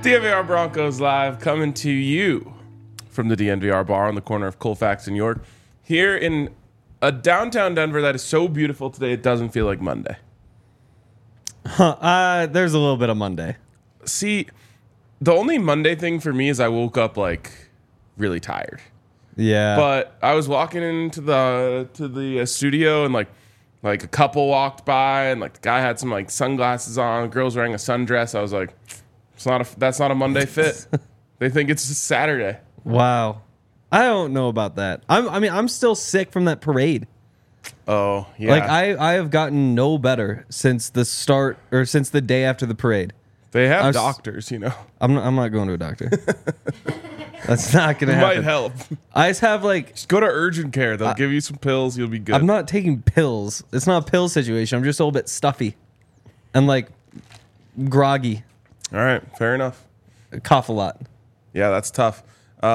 DNVR Broncos Live coming to you from the DNVR bar on the corner of Colfax and York. Here in a downtown Denver that is so beautiful today, it doesn't feel like Monday. There's a little bit of Monday. See, the only Monday thing for me is I woke up like really tired. Yeah. But I was walking into the studio and like a couple walked by and like the guy had some like sunglasses on, the girl's wearing a sundress. I was like, that's not a Monday fit. They think it's a Saturday. Wow. I don't know about that. I'm still sick from that parade. Oh, yeah. Like I have gotten no better since the start or since the day after the parade. They have doctors, you know. I'm not going to a doctor. That's not going to happen. Might help. I just have like... Just go to urgent care. They'll give you some pills. You'll be good. I'm not taking pills. It's not a pill situation. I'm just a little bit stuffy and like groggy. All right. Fair enough. I cough a lot. Yeah, that's tough.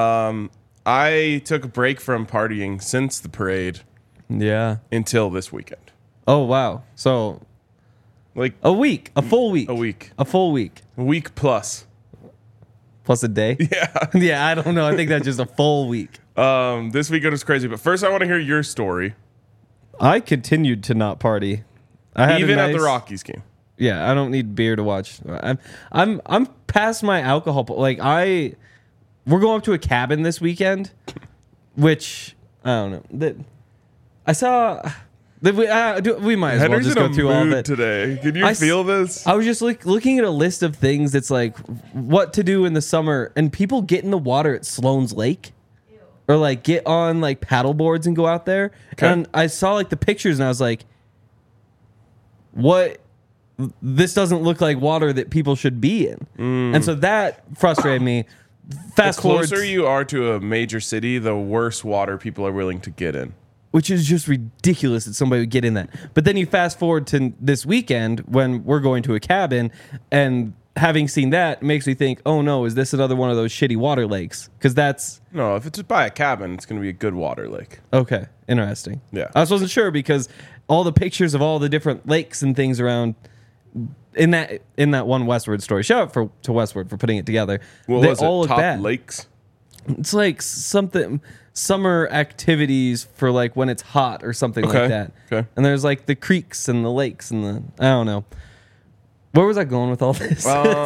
I took a break from partying since the parade. Yeah. Until this weekend. Oh, wow. So... like a week. A full week. A week. A full week. A week plus. Plus a day? Yeah. Yeah, I don't know. I think that's just a full week. This weekend was crazy. But first, I want to hear your story. I continued to not party. Even at the Rockies game. Yeah, I don't need beer to watch. I'm past my alcohol. We're going up to a cabin this weekend, which I don't know. I saw. We might as well just go through all of it today. Can you feel this? I was just looking at a list of things that's like what to do in the summer, and people get in the water at Sloan's Lake, or like get on like paddle boards and go out there. Okay. And I saw like the pictures, and I was like, "What? This doesn't look like water that people should be in." And so that frustrated me. Fast forward, the closer you are to a major city, the worse water people are willing to get in. Which is just ridiculous that somebody would get in that. But then you fast forward to this weekend when we're going to a cabin, and having seen that makes me think, oh no, is this another one of those shitty water lakes? Because that's... No, if it's by a cabin, it's going to be a good water lake. Okay, interesting. Yeah. I just wasn't sure because all the pictures of all the different lakes and things around... In that one Westward story. Shout out to Westward for putting it together. What was it? Top lakes? It's like something... summer activities for like when it's hot or something like that. Okay. And there's like the creeks and the lakes and the I don't know. Where was I going with all this?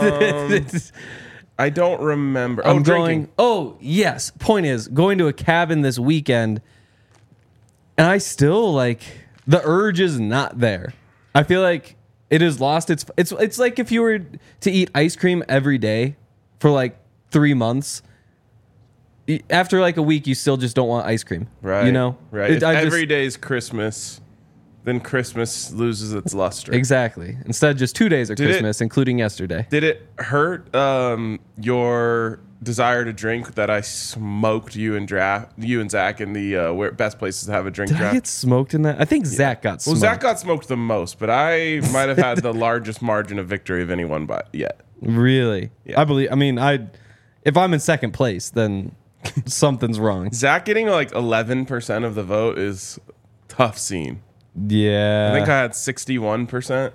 I don't remember. Drinking. Oh, yes. Point is, going to a cabin this weekend, and I still like the urge is not there. I feel like it has lost it's like if you were to eat ice cream every day for like 3 months. After like a week, you still just don't want ice cream. Right. You know? Right. If every day is Christmas, then Christmas loses its luster. Exactly. Instead, just 2 days of Christmas, including yesterday. Did it hurt your desire to drink that I smoked you and Zach in the best places to have a drink Did draft? I get smoked in that? I think Zach got smoked. Well, Zach got smoked the most, but I might have had the largest margin of victory of anyone yet. Really? Yeah. If I'm in second place, then... something's wrong. Zach getting like 11% of the vote is tough scene. Yeah. I think I had 61%.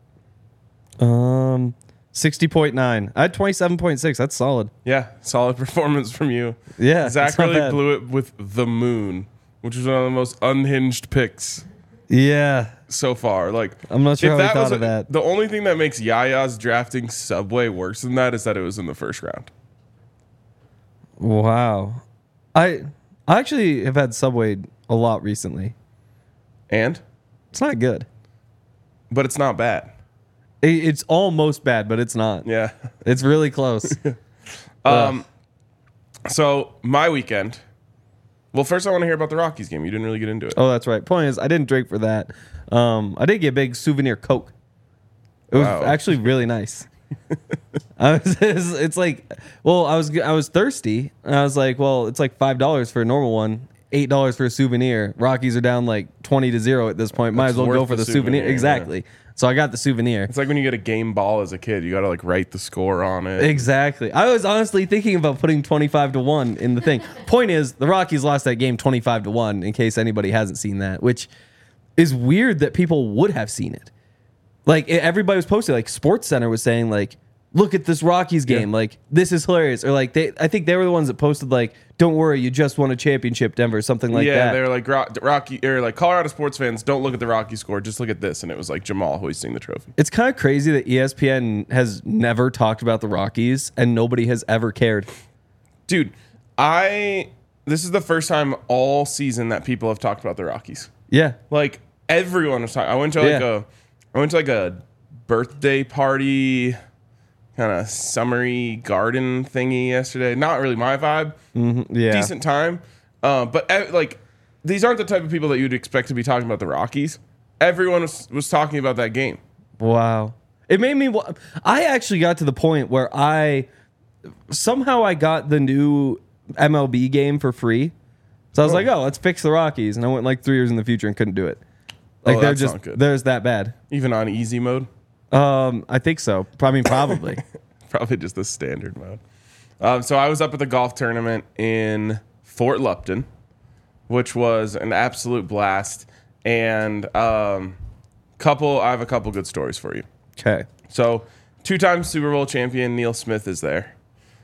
60.9. I had 27.6. That's solid. Yeah, solid performance from you. Yeah. Zach really blew it with The Moon, which was one of the most unhinged picks. Yeah. So far. Like, I'm not sure how I thought of that. The only thing that makes Yaya's drafting Subway worse than that is that it was in the first round. Wow. I actually have had Subway a lot recently. And? It's not good. But it's not bad. It's almost bad, but it's not. Yeah. It's really close. So, my weekend. Well, first I want to hear about the Rockies game. You didn't really get into it. Oh, that's right. Point is, I didn't drink for that. I did get a big souvenir Coke. It was actually really nice. I was thirsty. And I was like, well, it's like $5 for a normal one, $8 for a souvenir. Rockies are down like 20-0 at this point. Might as well go for the souvenir. Exactly. Yeah. So I got the souvenir. It's like when you get a game ball as a kid, you got to like write the score on it. Exactly. I was honestly thinking about putting 25-1 in the thing. Point is, the Rockies lost that game 25-1. In case anybody hasn't seen that, which is weird that people would have seen it. Like everybody was posting, like SportsCenter was saying, like look at this Rockies game. Like, this is hilarious. Or like, I think they were the ones that posted like, don't worry, you just won a championship, Denver, something like that. Yeah, they were like, Rocky, or like Colorado sports fans, don't look at the Rocky score, just look at this. And it was like Jamal hoisting the trophy. It's kind of crazy that ESPN has never talked about the Rockies and nobody has ever cared. Dude, this is the first time all season that people have talked about the Rockies. Yeah. Like, everyone was talking. I went to like a birthday party, kind of summery garden thingy yesterday. Not really my vibe. Yeah. Decent time. But like, these aren't the type of people that you'd expect to be talking about the Rockies. Everyone was talking about that game. Wow. It made me, I actually got to the point where somehow I got the new MLB game for free. So I was like, let's fix the Rockies. And I went like 3 years in the future and couldn't do it. Like, that's not good. They're just that bad. Even on easy mode? I think so. I mean, probably. Probably just the standard mode. So I was up at the golf tournament in Fort Lupton, which was an absolute blast. And I have a couple good stories for you. Okay. So 2-time Super Bowl champion Neil Smith is there.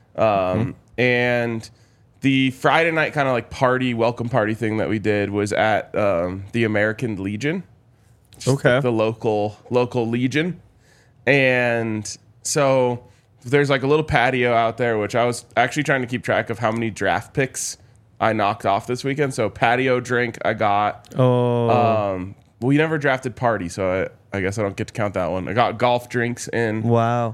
And the Friday night kind of like welcome party thing that we did was at the American Legion. Okay. The local Legion. And so there's like a little patio out there, which I was actually trying to keep track of how many draft picks I knocked off this weekend. So patio drink I got. We never drafted party, so I guess I don't get to count that one. I got golf drinks in. Wow.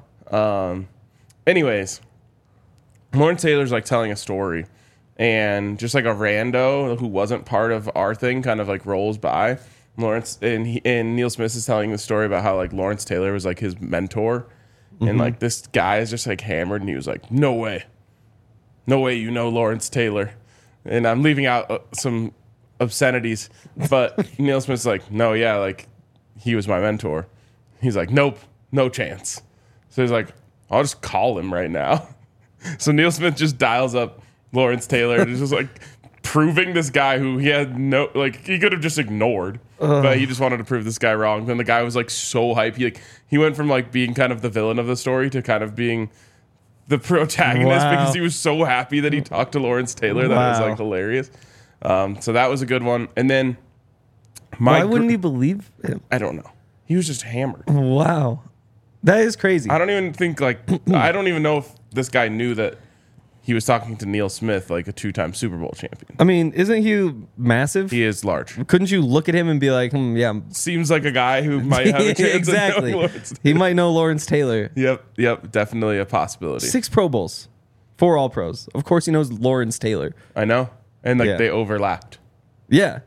Anyways, Lawrence Taylor's like telling a story, and just like a rando who wasn't part of our thing kind of like rolls by. Lawrence and Neil Smith is telling the story about how like Lawrence Taylor was like his mentor, and like this guy is just like hammered, and he was like, no way you know Lawrence Taylor. And I'm leaving out some obscenities, but Neil Smith's like, no, yeah, like he was my mentor. He's like, nope, no chance. So he's like, I'll just call him right now. So Neil Smith just dials up Lawrence Taylor and is just like proving this guy who he had he could have just ignored, but he just wanted to prove this guy wrong. Then the guy was like so hype. He went from like being kind of the villain of the story to kind of being the protagonist because he was so happy that he talked to Lawrence Taylor. That was like hilarious. So that was a good one. And then why wouldn't he believe him? I don't know. He was just hammered. Wow. That is crazy. I don't even think I don't even know if this guy knew that he was talking to Neil Smith, like a 2-time Super Bowl champion. I mean, isn't he massive? He is large. Couldn't you look at him and be like, yeah. Seems like a guy who might have a chance exactly. of knowing Lawrence Taylor. He might know Lawrence Taylor. Yep. Definitely a possibility. 6 Pro Bowls. 4 All Pros. Of course he knows Lawrence Taylor. I know. And they overlapped. Yeah.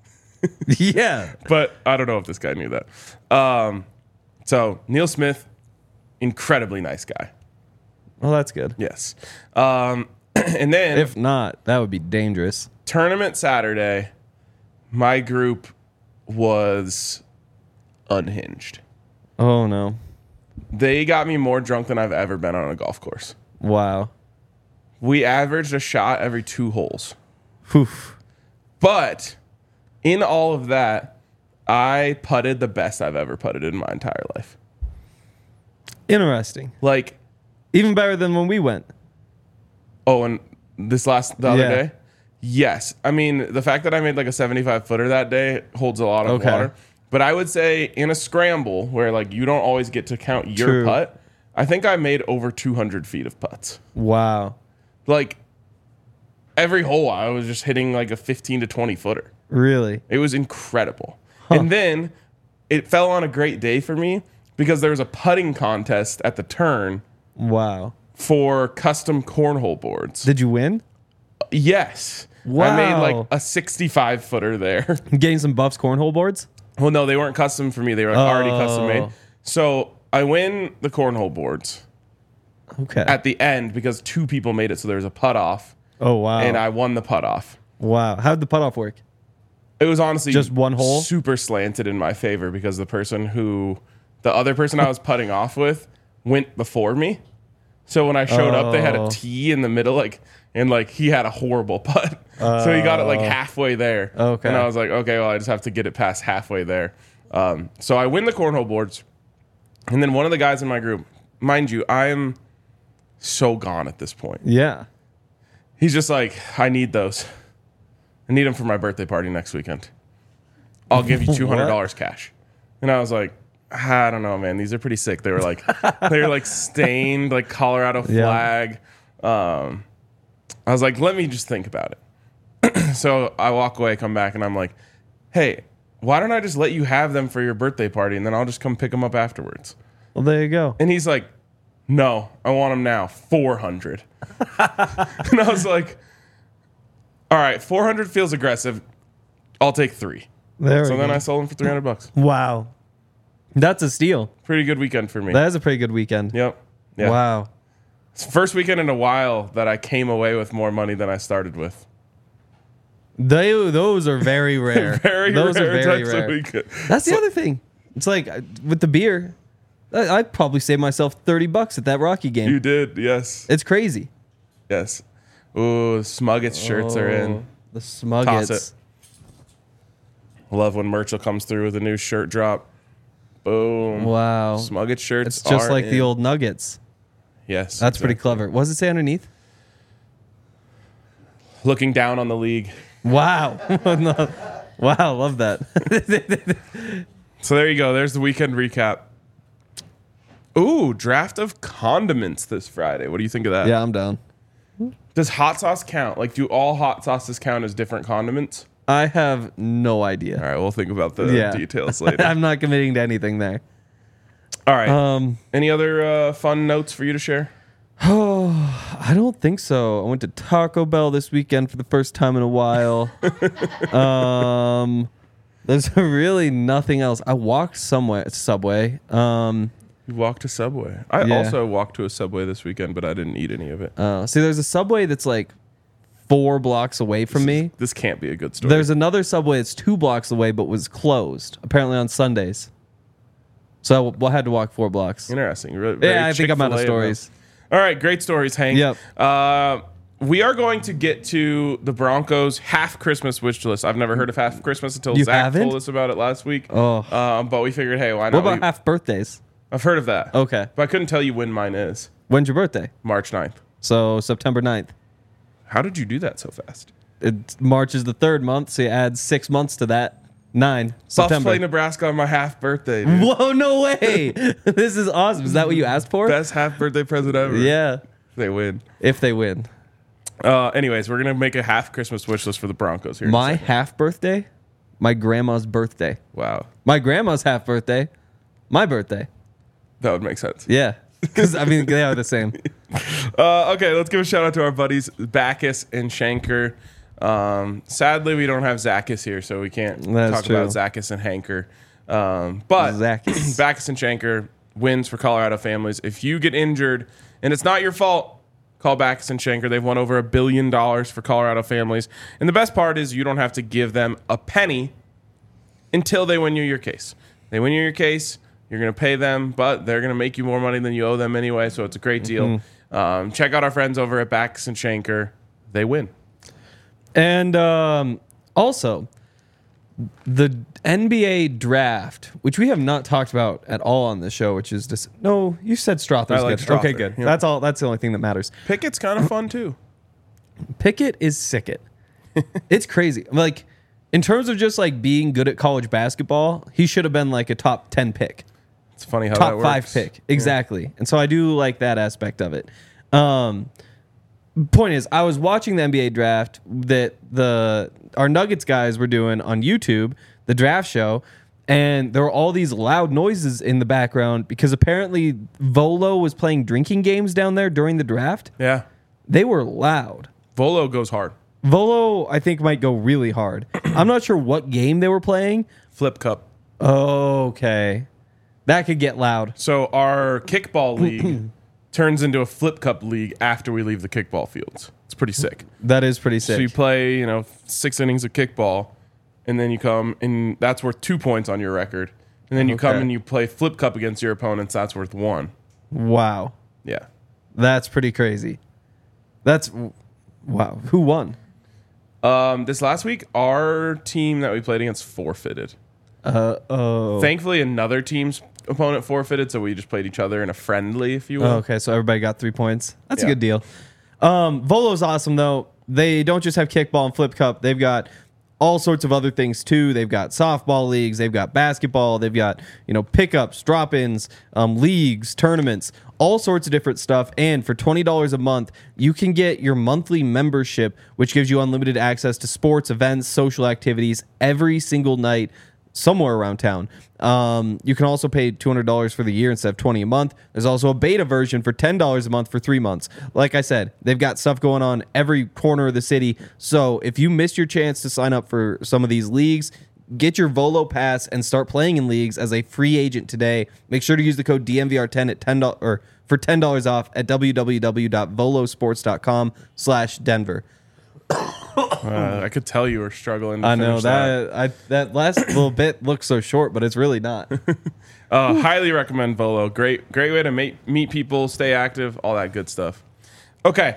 Yeah. But I don't know if this guy knew that. So Neil Smith, incredibly nice guy. Well, that's good. Yes. And then if not, that would be dangerous. Tournament Saturday, my group was unhinged. Oh, no. They got me more drunk than I've ever been on a golf course. Wow. We averaged a shot every 2 holes. Whew. But in all of that, I putted the best I've ever putted in my entire life. Interesting. Like, even better than when we went. Oh, and the other day? Yes. I mean, the fact that I made like a 75-footer that day holds a lot of water. But I would say in a scramble where like you don't always get to count your putt, I think I made over 200 feet of putts. Wow. Like every hole I was just hitting like a 15 to 20 footer. Really? It was incredible. And then it fell on a great day for me because there was a putting contest at the turn. Wow. For custom cornhole boards. Did you win? Yes. Wow. I made like a 65-footer there. Getting some Buffs cornhole boards? Well, no, they weren't custom for me. They were like already custom made. So I win the cornhole boards. Okay. At the end because 2 people made it, so there was a putt off. Oh, wow. And I won the putt off. Wow. How'd the putt off work? It was honestly just one hole? Super slanted in my favor because the other person I was putting off with went before me. So when I showed up, they had a tee in the middle, and he had a horrible putt. So he got it like halfway there. Okay. And I was like, okay, well, I just have to get it past halfway there. So I win the cornhole boards. And then one of the guys in my group mind you, I am so gone at this point. Yeah. He's just like, I need those. I need them for my birthday party next weekend. I'll give you $200 cash. And I was like, I don't know, man. These are pretty sick. They were like stained, like Colorado flag. I was like, let me just think about it. So I walk away, come back, and I'm like, hey, why don't I just let you have them for your birthday party, and then I'll just come pick them up afterwards? Well, there you go. And he's like, no, I want them now, 400. And I was like, all right, 400 feels aggressive. I'll take 3. So then I sold them for $300. Wow. That's a steal. Pretty good weekend for me. That is a pretty good weekend. Yep. Yeah. Wow. It's the first weekend in a while that I came away with more money than I started with. Those are very rare. Those are very types rare. of weekend. That's the other thing. It's like with the beer, I'd probably save myself $30 at that Rocky game. You did, yes. It's crazy. Yes. Ooh, Smuggets shirts are in. The Toss Smuggets. it. Love when Merchel comes through with a new shirt drop. Boom. Wow. Smugget shirts It's just are like the in. Nuggets. Yes. That's pretty exactly. clever. What does it say underneath? Looking down on the league. Wow. No. Wow, love that. So there you go. There's the weekend recap. Ooh, draft of condiments this Friday. What do you think of that? Yeah, I'm down. Does hot sauce count? Like, do all hot sauces count as different condiments? I have no All idea. right, we'll think about the details later. I'm not committing to anything there. All right. Any other fun notes for you to share? I don't think so. I went to Taco Bell this weekend for the first time in a while. There's really nothing else. I walked Subway. You walked to Subway. I Yeah. also walked to a Subway this weekend, but I didn't eat any of it. See, there's a Subway that's like 4 blocks away from me. This can't be a good story. There's another Subway that's 2 blocks away, but was closed apparently on Sundays. So I had to walk 4 blocks. Interesting. Yeah, I think I'm out of stories. All right, great stories, Hank. Yep. We are going to get to the Broncos half Christmas wish list. I've never heard of half Christmas until You Zach haven't? told us about it last week. Oh. But we figured, hey, why What not? about half birthdays? I've heard of that. Okay. But I couldn't tell you when mine is. When's your birthday? March 9th. So September 9th. How did you do that so fast? March is the 3rd month, so you add 6 months to that. 9 Buffs September. play Nebraska on my half birthday, dude. Whoa, no way. This is awesome. Is that what you asked for? Best half birthday present ever. Yeah. They win. If they win. Anyways, we're going to make a half Christmas wish list for the Broncos here. in a My second. half birthday? My grandma's birthday. Wow. My grandma's half birthday. My birthday. That would make sense. Yeah. Because, I mean, they are the same. Okay, let's give a shout out to our buddies Bacchus and Shanker. Sadly, we don't have Zachus here, so we can't That's talk true. about Zachus and Hanker. But Zachus. Bacchus and Shanker wins for Colorado families. If you get injured and it's not your fault, call Bacchus and Shanker. They've won over $1 billion for Colorado families. And the best part is you don't have to give them a penny until they win you your case. They win you your case, you're going to pay them, but they're going to make you more money than you owe them anyway, so it's a great deal. Check out our friends over at Bacchus and Shanker. They win. And also, the NBA draft, which we have not talked about at all on the show, which is just no. You said Strother's I like good. Strother, Okay, good. yeah. That's all. That's the only thing that matters. Pickett's kind of fun, too. Pickett is sick. It's crazy. Like in terms of just like being good at college basketball, he should have been like a top 10 pick, It's funny how that top works. 5 pick, exactly. And so I do like that aspect of it. Point is, I was watching the NBA draft that our Nuggets guys were doing on YouTube, the draft show, and there were all these loud noises in the background because apparently Volo was playing drinking games down there during the draft. Yeah. They were loud. Volo goes hard. Volo, I think, might go really hard. I'm not sure what game they were playing. Flip Cup. Okay. That could get loud. So our kickball league turns into a Flip Cup league after we leave the kickball fields. It's pretty sick. That is pretty So you sick. play, 6 innings of kickball, and then you come, and that's worth 2 points on your record. And then you come Okay. and you play Flip Cup against your opponents. That's worth 1. Wow. Yeah. That's pretty crazy. That's wow. Who won? This last week, our team that we played against forfeited. Oh. Thankfully, another team's opponent forfeited, so we just played each other in a friendly, if you will. Oh, okay, so everybody got 3 points. That's a Yeah. good deal. Volo's awesome though. They don't just have kickball and flip cup. They've got all sorts of other things too. They've got softball leagues. They've got basketball. They've got pickups, drop-ins, leagues, tournaments, all sorts of different stuff. And for $20 a month, you can get your monthly membership, which gives you unlimited access to sports, events, social activities every single night somewhere around town. You can also pay $200 for the year instead of $20 a month. There's also a beta version for $10 a month for 3 months. Like I said, they've got stuff going on every corner of the city. So if you missed your chance to sign up for some of these leagues, get your Volo pass and start playing in leagues as a free agent today. Make sure to use the code DMVR10 at $10 or for $10 off at www.volosports.com/Denver. I could tell you were struggling. To I know finish that. that last little bit looks so short, but it's really not. Highly recommend Volo. Great way to meet people, stay active, all that good stuff. Okay,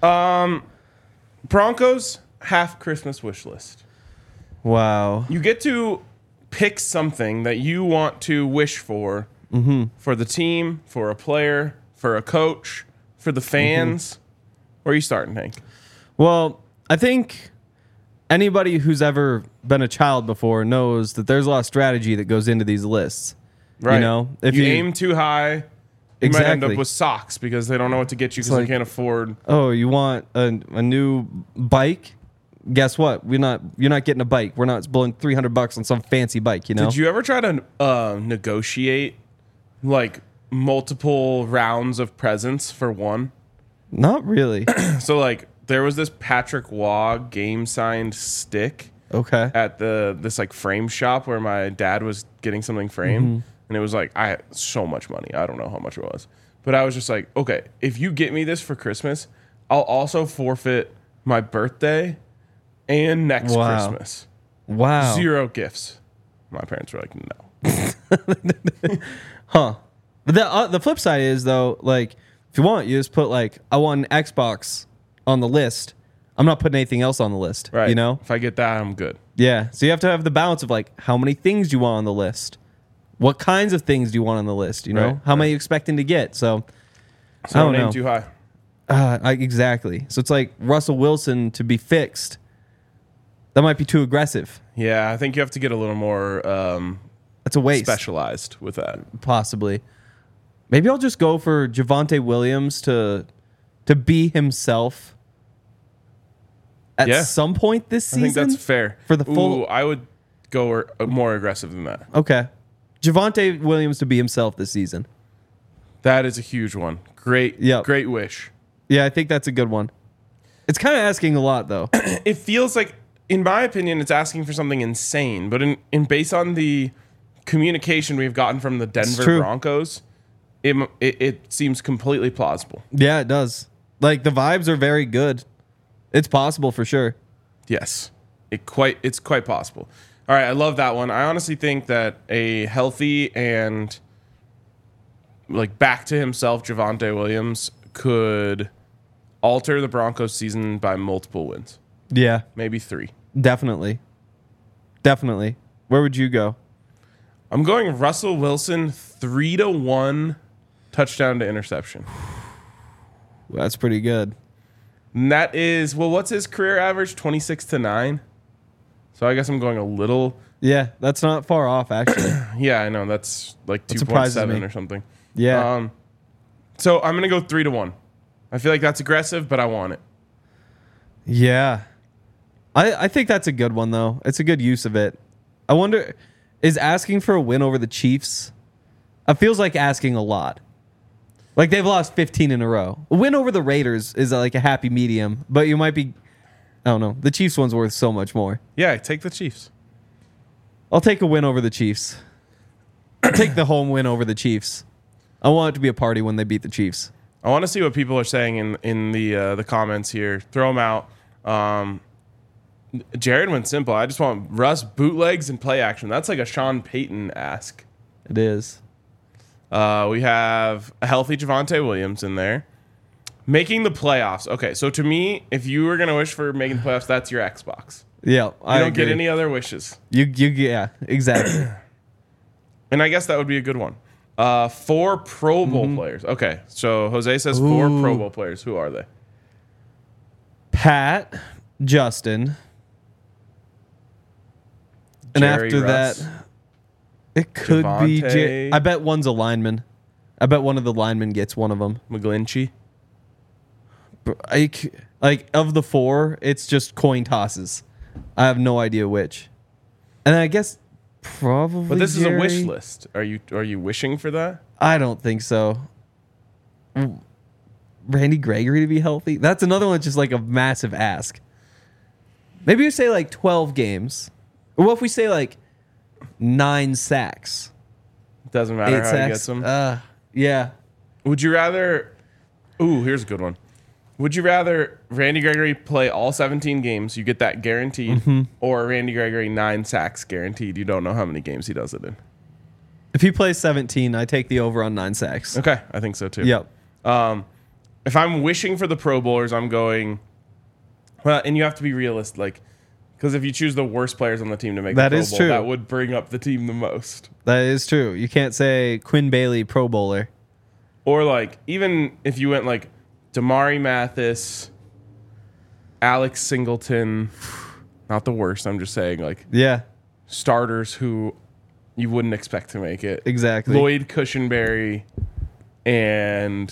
Broncos half Christmas wish list. Wow. You get to pick something that you want to wish for the team, for a player, for a coach, for the fans. Where are you starting, Hank? Well, I think anybody who's ever been a child before knows that there's a lot of strategy that goes into these lists. Right. If you aim too high, you might end up Exactly. with socks because they don't know what to get you because like- they can't afford. Oh, you want a new bike? Guess what? You're not getting a bike. We're not blowing $300 on some fancy bike. Did you ever try to negotiate like multiple rounds of presents for one? Not really. So like there was this Patrick Waugh game signed stick Okay. at this like frame shop where my dad was getting something framed, and it was like I had so much money. I don't know how much it was, but I was just like, okay, if you get me this for Christmas, I'll also forfeit my birthday and next Wow. Christmas. Wow. 0 gifts. My parents were like, no. Huh. But the flip side is though, like if you want, you just put like I want an Xbox on the list. I'm not putting anything else on the list. Right. You know? If I get that, I'm good. Yeah. So you have to have the balance of like how many things do you want on the list? What kinds of things do you want on the list? You know? Right, How many are you expecting to get? So So I don't don't aim know. too high. Exactly. So it's like Russell Wilson to be fixed. That might be too aggressive. Yeah, I think you have to get a little more That's a waste. specialized with that. Possibly. Maybe I'll just go for Javonte Williams to be himself at Yeah. some point this I season. think that's fair. For the full- Ooh, I would go more aggressive than that. Okay. Javonte Williams to be himself this season. That is a huge one. Great, Yep. great wish. Yeah, I think that's a good one. It's kind of asking a lot though. It feels like, in my opinion, it's asking for something insane. But in based on the communication we've gotten from the Denver true. Broncos, it seems completely plausible. Yeah, it does. Like the vibes are very good. It's possible for sure. Yes, it's quite possible. All right, I love that one. I honestly think that a healthy and like back to himself Javonte Williams could alter the Broncos season by multiple wins, Yeah, maybe 3. definitely. Definitely. Where would you go? I'm going Russell Wilson 3-1 touchdown to interception. Well, that's pretty good. And that is, well, what's his career average? 26-9. So I guess I'm going a little. Yeah, that's not far off actually. Yeah, I know that's like That surprises 2.7 me. or something. Yeah. So I'm gonna go 3-1. I feel like that's aggressive, but I want it. Yeah. I think that's a good one, though. It's a good use of it. I wonder, is asking for a win over the Chiefs? It feels like asking a lot. Like they've lost 15 in a row. A win over the Raiders is like a happy medium, but you might be, I don't know. The Chiefs one's worth so much more. Yeah, take the Chiefs. I'll take a win over the Chiefs. I'll take the home win over the Chiefs. I want it to be a party when they beat the Chiefs. I want to see what people are saying in the comments here. Throw them out. Jared went simple. I just want Russ bootlegs and play action. That's like a Sean Payton ask. It is. We have a healthy Javonte Williams in there. Making the playoffs. Okay, so to me, if you were going to wish for making the playoffs, that's your Xbox. Yeah, You don't get any other wishes. Yeah, exactly. And I guess that would be a good one. 4 Pro Bowl players. Okay, so Jose says 4 Ooh. Pro Bowl players. Who are they? Pat, Justin. And Jerry after Russ, that, it could be. Javonte. I bet one's a lineman. I bet one of the linemen gets one of them. McGlinchey. Like of the 4, it's just coin tosses. I have no idea which. And I guess probably. But this is a wish Jerry. list. Are you wishing for that? I don't think so. Randy Gregory to be healthy? That's another one that's just like a massive ask. Maybe you say like 12 games. Or what if we say like 9 sacks? Doesn't matter 8 how sacks? he gets them. Yeah. Would you rather? Ooh, here's a good one. Would you rather Randy Gregory play all 17 games, you get that guaranteed, or Randy Gregory 9 sacks guaranteed, you don't know how many games he does it in? If he plays 17, I take the over on 9 sacks. Okay, I think so too. Yep. If I'm wishing for the Pro Bowlers, I'm going. Well, and you have to be realistic, like, because if you choose the worst players on the team to make That the Pro is Bowl, true. that would bring up the team the most. That is true. You can't say Quinn Bailey Pro Bowler. Or like, even if you went like Damari Mathis, Alex Singleton, not the worst. I'm just saying like Yeah, starters who you wouldn't expect to make it. exactly. Lloyd Cushenberry and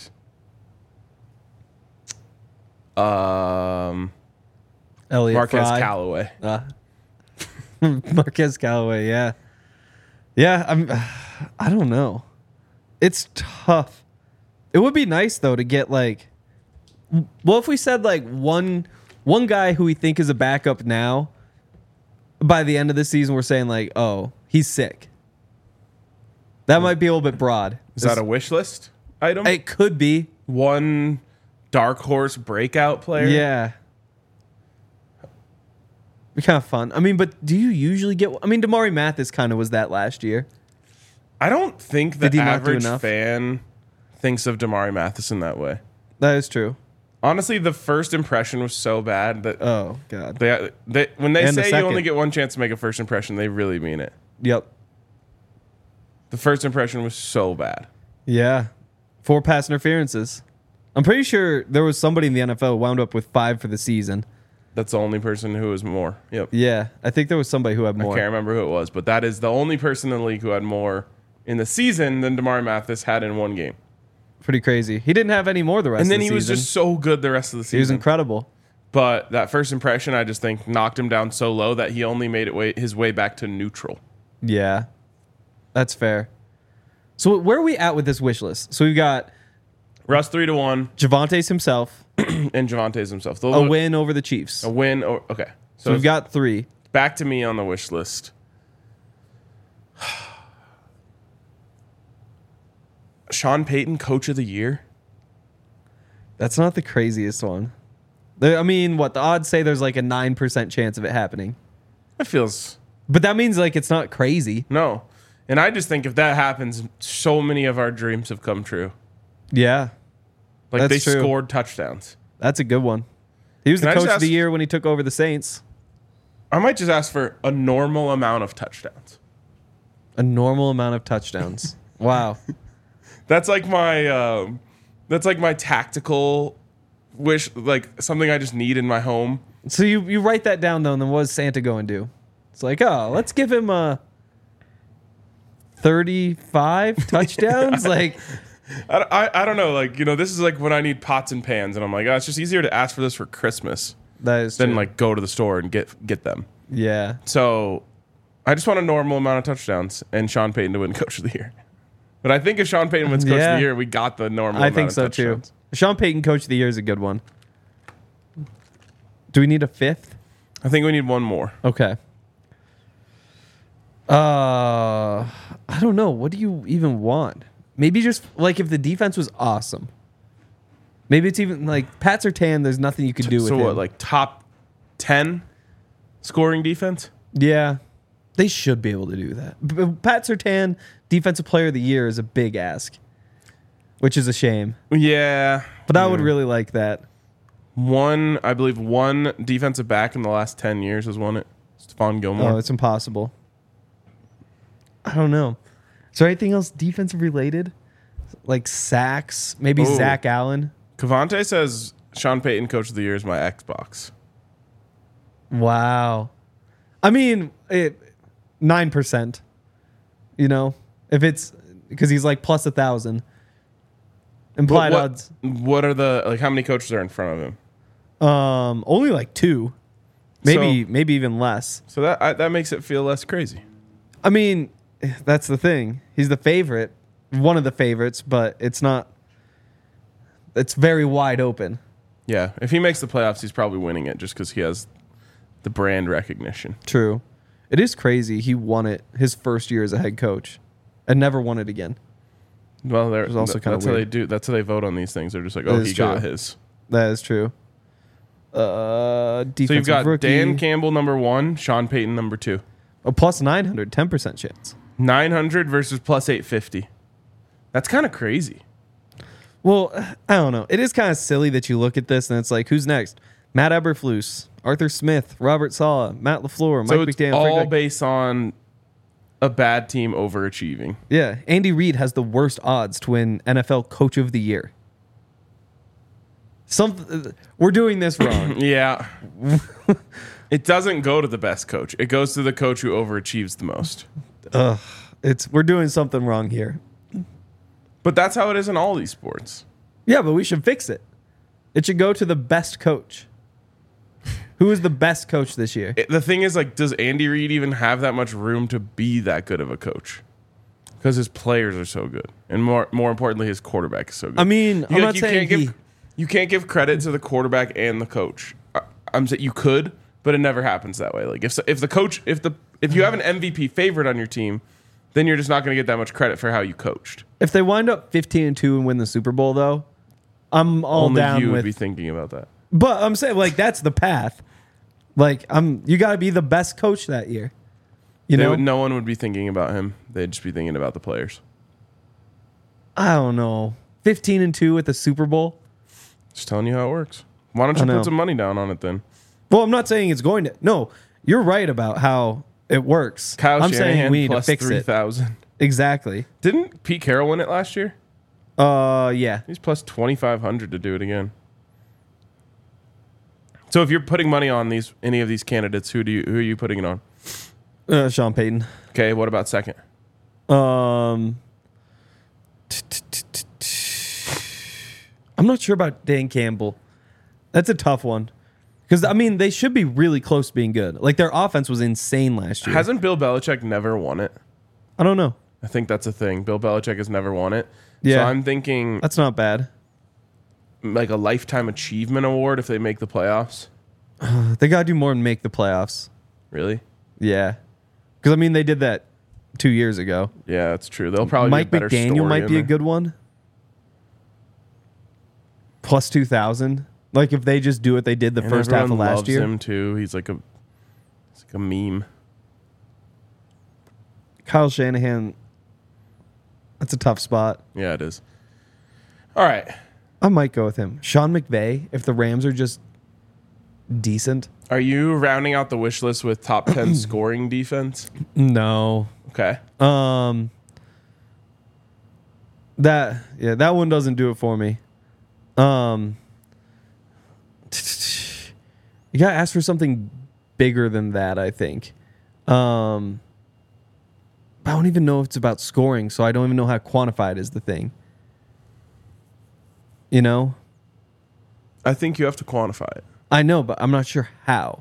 Elliott Marquez Fry. Callaway. Marquez Callaway, yeah. Yeah, I don't know. It's tough. It would be nice though to get like, well, if we said like one guy who we think is a backup now, by the end of the season we're saying like, oh, he's sick. That might be a little bit broad. Is that a wish list item? It could be. One dark horse breakout player? Yeah. Be kind of fun. I mean, but do you usually get? I mean, Damari Mathis kind of was that last year. I don't think the Did he not do average enough? fan thinks of Damari Mathis in that way. That is true. Honestly, the first impression was so bad that Oh God. they when they And the say you second. only get one chance to make a first impression, they really mean it. Yep. The first impression was so bad. Yeah. 4 pass interferences. I'm pretty sure there was somebody in the NFL who wound up with 5 for the season. That's the only person who was more. Yep. Yeah, I think there was somebody who had I more. can't remember who it was, but that is the only person in the league who had more in the season than Damari Mathis had in one game. Pretty crazy. He didn't have any more the rest And of then the he season. was just so good the rest of the He was season. incredible. But that first impression, I just think, knocked him down so low that he only made his way back to neutral. Yeah. That's fair. So where are we at with this wish list? So we've got Russ 3-1 Javante's himself, and Javante's himself. a win over the Chiefs. A win. Okay. So we've got 3. back to me on the wish list. Sean Payton, Coach of the Year. That's not the craziest one. I mean, what the odds say there's like a 9% chance of it happening. That feels But that means like it's not crazy. no. And I just think if that happens, so many of our dreams have come true. Yeah. Like That's they true. scored touchdowns. That's a good one. He was Can the I just coach of the ask- year when he took over the Saints. I might just ask for a normal amount of touchdowns. A normal amount of touchdowns. Wow. That's like my tactical wish, like something I just need in my home. So you write that down though, and then what does Santa go and do? It's like, oh, let's give him 35 touchdowns. Like, I don't know, like, you know, this is like when I need pots and pans, and I'm like, oh, it's just easier to ask for this for Christmas that is than true. like go to the store and get them. Yeah. So I just want a normal amount of touchdowns and Sean Payton to win Coach of the Year. But I think if Sean Payton wins Coach of Yeah. the Year, we got the normal I amount think of so too. touchdowns. Sean Payton, coach of the year, is a good one. Do we need a 5th? I think we need one more. Okay. I don't know. What do you even want? Maybe just like if the defense was awesome. Maybe it's even like Pat Surtain. There's nothing you could do with So him. what, like top 10 scoring defense? Yeah, they should be able to do that. Pat Surtain, defensive player of the year, is a big ask, which is a shame. Yeah. But I would really like that. I believe one defensive back in the last 10 years has won it. Stephon Gilmore. Oh, it's impossible. I don't know. Is there anything else defensive related? Like sacks? Maybe Ooh. Zach Allen? Cavante says Sean Payton Coach of the Year is my Xbox. Wow. I mean, 9%. You know? If it's... Because he's like plus 1,000. Implied odds. What are the... Like, how many coaches are in front of him? Only like 2. Maybe even less. So that makes it feel less crazy. I mean, that's the thing. He's the favorite. One of the favorites, but it's not... It's very wide open. Yeah. If he makes the playoffs, he's probably winning it just because he has the brand recognition. True. It is crazy. He won it his first year as a head coach and never won it again. Well, also kinda that's how they weird. do. That's how they vote on these things. They're just like, That oh, is he got true. his. That is true. Defensive So you've got rookie. Dan Campbell number 1, Sean Payton number 2. Oh, plus 900, 10% chance. 900 versus plus 850. That's kind of crazy. Well, I don't know. It is kind of silly that you look at this and it's like, who's next? Matt Eberflus, Arthur Smith, Robert Saleh, Matt LaFleur, So Mike it's McDaniel. all Frank Reich. based on a bad team overachieving. Yeah, Andy Reid has the worst odds to win NFL Coach of the Year. We're doing this wrong. Yeah. It doesn't go to the best coach. It goes to the coach who overachieves the most. We're doing something wrong here. But that's how it is in all these sports. Yeah, but we should fix it. It should go to the best coach. Who is the best coach this year? The thing is, like, does Andy Reid even have that much room to be that good of a coach? Because his players are so good, and more importantly, his quarterback is so good. I mean, I'm not saying you can't give credit to the quarterback and the coach. I'm saying you could, but it never happens that way. Like if you have an MVP favorite on your team, then you're just not going to get that much credit for how you coached. if they wind up 15-2 and win the Super Bowl, though, I'm all Only down you would with. be thinking about that. But I'm saying, like, that's the path. Like, you got to be the best coach that year. You know, No one would be thinking about him. They'd just be thinking about the players. I don't know. 15-2 at the Super Bowl. Just telling you how it works. Why don't I you know. put some money down on it then? Well, I'm not saying it's going to. No, you're right about how it works. Kyle I'm Shanahan saying we need to plus fix it. 3,000. Exactly. Didn't Pete Carroll win it last year? Yeah. He's plus 2,500 to do it again. So if you're putting money on any of these candidates, who are you putting it on? Sean Payton. Okay, what about second? I'm not sure about Dan Campbell. That's a tough one. Because, I mean, they should be really close to being good. Like, their offense was insane last year. Hasn't Bill Belichick never won it? I don't know. I think that's a thing. Bill Belichick has never won it. Yeah. So I'm thinking That's not bad. like a lifetime achievement award if they make the playoffs. They got to do more than make the playoffs. Really? Yeah. Because, I mean, they did that 2 years ago. Yeah, that's true. They'll probably Mike be a better McDaniel story might in be a there. good one. Plus 2,000. Like, if they just do what they did the And first half of everyone last loves year. him too. He's like a meme. Kyle Shanahan, that's a tough spot. Yeah, it is. All right. I might go with him. Sean McVay, if the Rams are just decent. Are you rounding out the wish list with top 10 scoring defense? No. Okay. That one doesn't do it for me. You gotta ask for something bigger than that, I think. I don't even know if it's about scoring, so I don't even know how to quantify it is the thing. You know? I think you have to quantify it. I know, but I'm not sure how.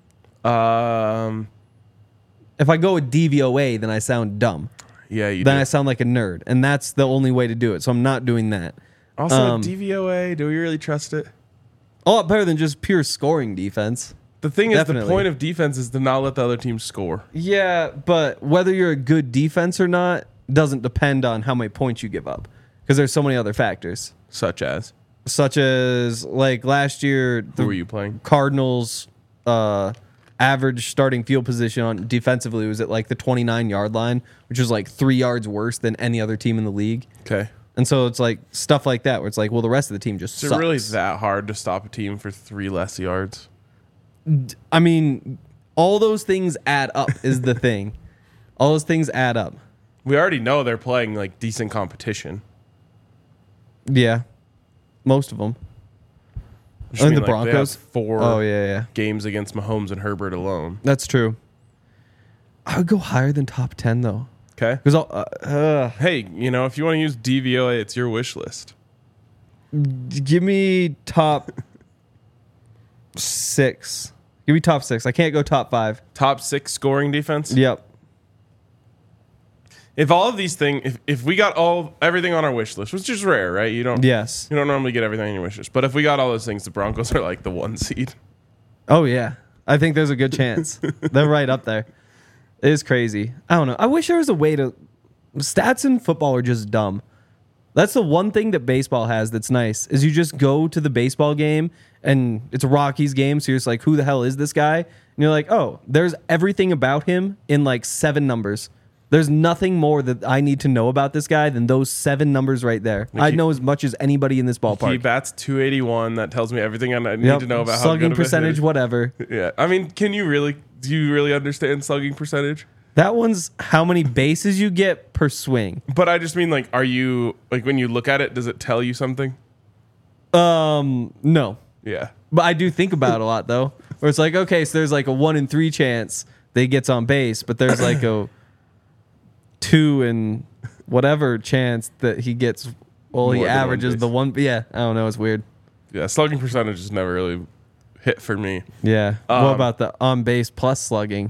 If I go with DVOA, then I sound dumb. Yeah, you Then do. I sound like a nerd, and that's the only way to do it. So I'm not doing that. Also, DVOA, do we really trust it? A lot better than just pure scoring defense. The thing is, Definitely. the point of defense is to not let the other team score. Yeah, but whether you're a good defense or not doesn't depend on how many points you give up, because there's so many other factors, Such as, such as like last year who the were you playing? Cardinals' average starting field position on defensively was at like the 29-yard line, which was like 3 yards worse than any other team in the league. Okay. And so it's like stuff like that where it's like, well, the rest of the team just Is sucks. it really that hard to stop a team for 3 less yards? I mean, all those things add up is the thing. All those things add up. We already know they're playing like decent competition. Yeah, most of them. Which And mean, the like, they have Broncos. 4 Oh yeah. games against Mahomes and Herbert alone. That's true. I would go higher than top 10 though, Okay. because Hey, you know, if you want to use DVOA, it's your wish list. give me top 6. Give me top 6. I can't go top 5. Top 6 scoring defense. Yep. If all of these things, if we got everything on our wish list, which is rare, right? You don't Yes. normally get everything on your wish list. But if we got all those things, the Broncos are like the 1 seed. Oh yeah. I think there's a good chance. They're right up there. It is crazy. I don't know. I wish there was a way to. Stats in football are just dumb. That's the one thing that baseball has that's nice is you just go to the baseball game and it's a Rockies game, so you're just like, who the hell is this guy? And you're like, oh, there's everything about him in like 7 numbers. There's nothing more that I need to know about this guy than those 7 numbers right there. I know as much as anybody in this He ballpark. bats 281. That tells me everything I need to know about how slugging good of a percentage, hitter. whatever. Yeah, I mean, do you really understand slugging percentage? That one's how many bases you get per swing. But I just mean, like, are you like when you look at it, does it tell you something? No. Yeah. But I do think about it a lot though. Where it's like, okay, so there's like a 1 in 3 chance that he gets on base, but there's like a 2 in whatever chance that he gets. Well, More he than one averages base. the one. Yeah, I don't know. It's weird. Yeah, slugging percentage has never really hit for me. Yeah. What Um, about the on base plus slugging?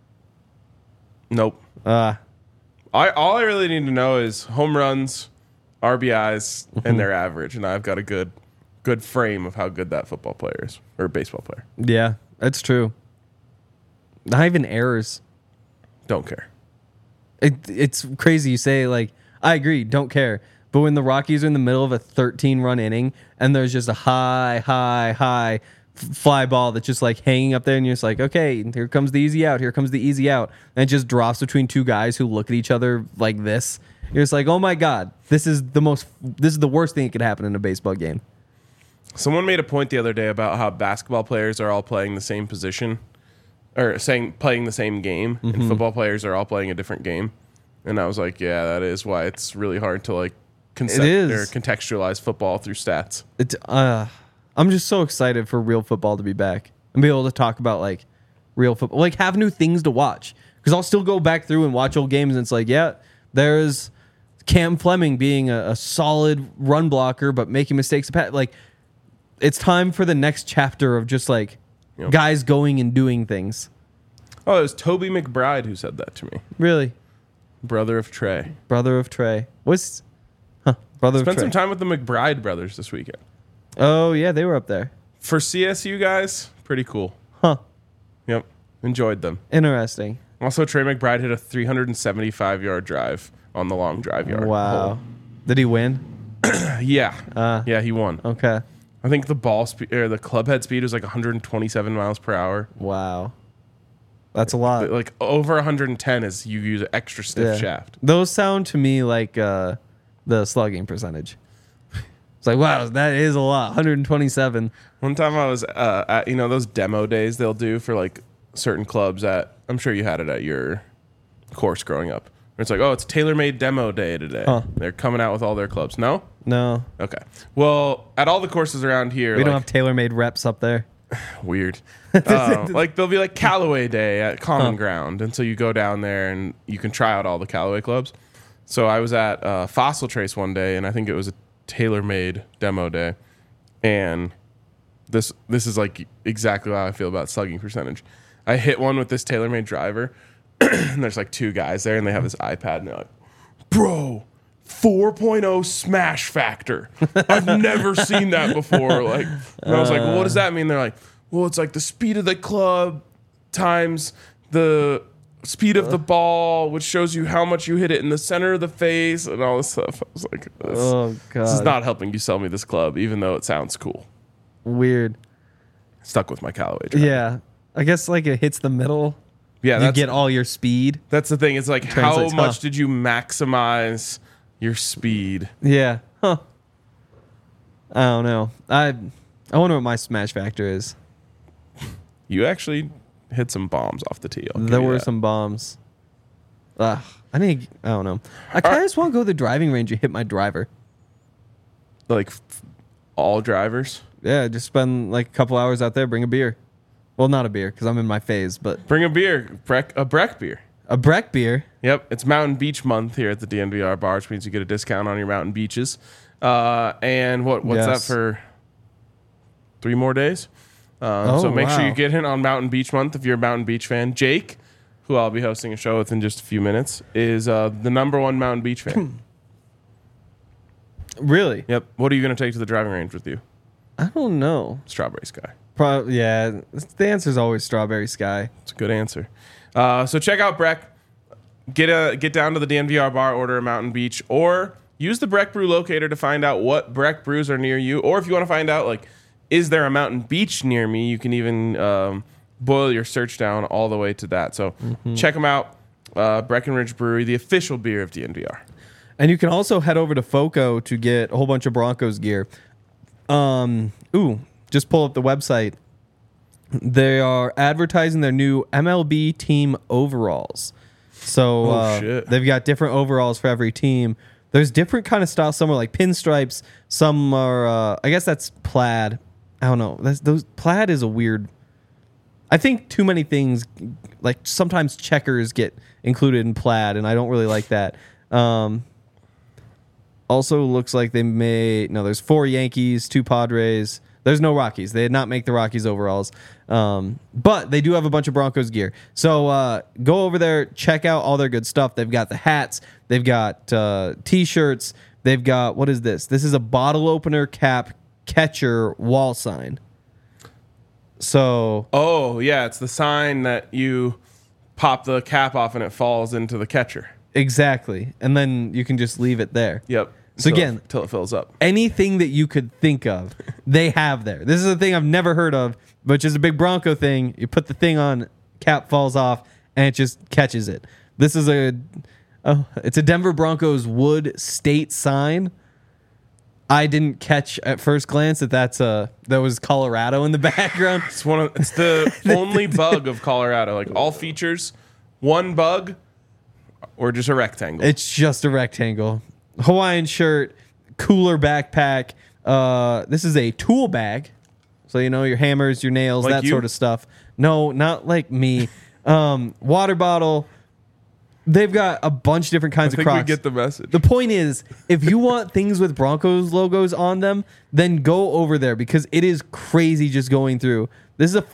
Nope. All I really need to know is home runs, RBIs, and their average, and I've got a good frame of how good that football player is or baseball player. Yeah, that's true. Not even errors. Don't care. It's crazy you say, like, I agree, don't care. But when the Rockies are in the middle of a 13-run inning and there's just a high fly ball that's just like hanging up there and you're just like, okay, here comes the easy out, and it just drops between 2 guys who look at each other like this. You're just like, oh my God, this is the worst thing that could happen in a baseball game. Someone made a point the other day about how basketball players are all playing the same position or playing the same game, and football players are all playing a different game. And I was like, yeah, that is why it's really hard to like contextualize football through stats. I'm just so excited for real football to be back and be able to talk about like real football, like have new things to watch. Because I'll still go back through and watch old games, and it's like, yeah, there's Cam Fleming being a solid run blocker, but making mistakes. Like, it's time for the next chapter of just like guys going and doing things. Oh, it was Toby McBride who said that to me. Really? Brother of Trey. Brother of Trey. Brother of Spent Trey. some time with the McBride brothers this weekend. Oh, yeah, they were up there. For CSU guys, pretty cool. Huh. Yep. Enjoyed them. Interesting. Also, Trey McBride hit a 375-yard drive on the long drive yard. Wow. hole. Did he win? Yeah. Yeah, he won. Okay. I think the ball speed or the club head speed was like 127 miles per hour. Wow. That's a lot. But like over 110 is you use an extra stiff shaft. Those sound to me like the slugging percentage. It's like, wow, that is a lot. 127. One time I was at those demo days they'll do for like certain clubs at, I'm sure you had it at your course growing up. It's like, oh, it's tailor-made demo day today. Huh. They're coming out with all their clubs. No? No. Okay. Well, at all the courses around here, We don't have tailor-made reps up there. weird. Like there'll be like Callaway Day at Common Ground, and so you go down there and you can try out all the Callaway clubs. So I was at Fossil Trace one day, and I think it was a tailor-made demo day, and this is like exactly how I feel about slugging percentage. I hit one with this tailor-made driver, and there's like 2 guys there, and they have this iPad, and they're like, "Bro, 4.0 smash factor. I've never seen that before." Like, and I was like, "Well, what does that mean?" They're like, "Well, it's like the speed of the club times the speed of the ball, which shows you how much you hit it in the center of the face and all this stuff." I was like, Oh, God. this is not helping you sell me this club, even though it sounds cool." Weird. Stuck with my Callaway driver. Yeah. I guess like it hits the middle. Yeah, You get all your speed. that's the thing. It's like, how Translates, much huh? did you maximize your speed? Yeah. Huh. I don't know. I wonder what my smash factor is. You actually hit some bombs off the tee. I'll give There you were that. some bombs. I don't know. I kind of just want to go to the driving range and hit my driver. Like all drivers. Yeah, just spend like a couple hours out there, bring a beer. Well, not a beer because I'm in my phase, but Bring a beer, a Breck beer. a Breck beer. Yep, it's Mountain Beach month here at the DNVR bar, which means you get a discount on your mountain beaches. And what's Yes. that for 3 more days? So make sure you get in on Mountain Beach month if you're a Mountain Beach fan. Jake, who I'll be hosting a show with in just a few minutes, is the #1 Mountain Beach fan. Really? Yep. What are you going to take to the driving range with you? I don't know. Strawberry Sky. Yeah, the answer is always Strawberry Sky. It's a good answer. So check out Breck. Get down to the DNVR bar, order a Mountain Beach, or use the Breck Brew locator to find out what Breck brews are near you. Or if you want to find out, like, is there a Mountain Beach near me, you can even boil your search down all the way to that. So check them out. Breckenridge Brewery, the official beer of DNVR. And you can also head over to FOCO to get a whole bunch of Broncos gear. Just pull up the website. They are advertising their new MLB team overalls. So shit. they've got different overalls for every team. There's different kind of styles. Some are like pinstripes. Some are, I guess that's plaid. I don't know. Those plaid is a weird. I think too many things, like sometimes checkers get included in plaid, and I don't really like that. Also looks like there's 4 Yankees, 2 Padres. There's no Rockies. They did not make the Rockies overalls. But they do have a bunch of Broncos gear. So go over there, check out all their good stuff. They've got the hats. They've got T-shirts. They've got, what is this? This is a bottle opener, cap, catcher, wall sign. So. Oh, yeah. It's the sign that you pop the cap off and it falls into the catcher. Exactly. And then you can just leave it there. Yep. So again, until it fills up. Anything that you could think of, they have there. This is a thing I've never heard of, which is a big Bronco thing. You put the thing on, cap falls off, and it just catches it. This is it's a Denver Broncos wood state sign. I didn't catch at first glance that was Colorado in the background. It's the only bug of Colorado. Like all features, one bug, or just a rectangle. It's just a rectangle. Hawaiian shirt, cooler backpack. This is a tool bag. So, your hammers, your nails, like that you? sort of stuff. No, not like me. Water bottle. They've got a bunch of different kinds I of think Crocs. we get the message. The point is, if you want things with Broncos logos on them, then go over there because it is crazy just going through. This is a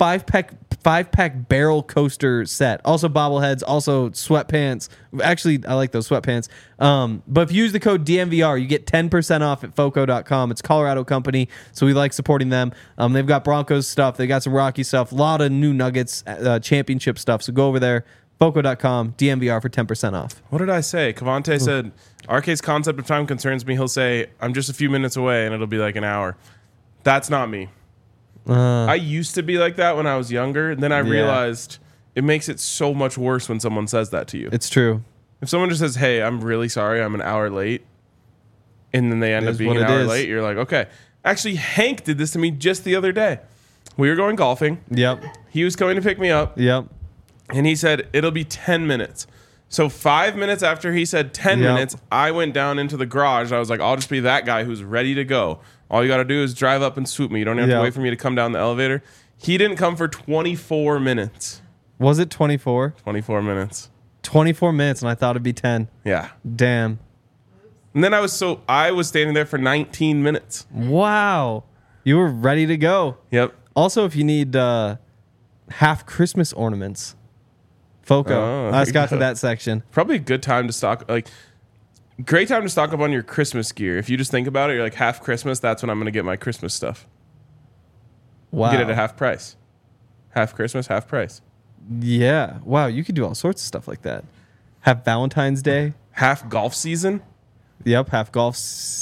5-pack barrel coaster set. Also bobbleheads, also sweatpants. Actually, I like those sweatpants. But if you use the code DNVR, you get 10% off at FOCO.com. It's a Colorado company, so we like supporting them. They've got Broncos stuff. They got some Rocky stuff. A lot of new Nuggets championship stuff. So go over there. FOCO.com, DNVR for 10% off. What did I say? Cavante said, RK's concept of time concerns me. He'll say, I'm just a few minutes away, and it'll be like an hour. That's not me. I used to be like that when I was younger, and then I realized it makes it so much worse when someone says that to you. It's true. If someone just says, hey, I'm really sorry, I'm an hour late, and then they end up being an hour late, you're like, okay. Actually, Hank did this to me just the other day. We were going golfing. Yep. He was coming to pick me up. Yep. And he said, it'll be 10 minutes. So 5 minutes after he said 10 minutes, I went down into the garage. I was like, I'll just be that guy who's ready to go. All you got to do is drive up and swoop me. You don't have to wait for me to come down the elevator. He didn't come for 24 minutes. Was it 24? 24 minutes. 24 minutes, and I thought it'd be 10. Yeah. Damn. And then I was standing there for 19 minutes. Wow. You were ready to go. Yep. Also, if you need half Christmas ornaments, FOCO. I just got to that section. Probably a good time to stock, great time to stock up on your Christmas gear. If you just think about it, you're like, half Christmas, that's when I'm going to get my Christmas stuff. Wow. Get it at half price. Half Christmas, half price. Yeah. Wow, you could do all sorts of stuff like that. Have Valentine's Day. Half golf season. Yep, half golf.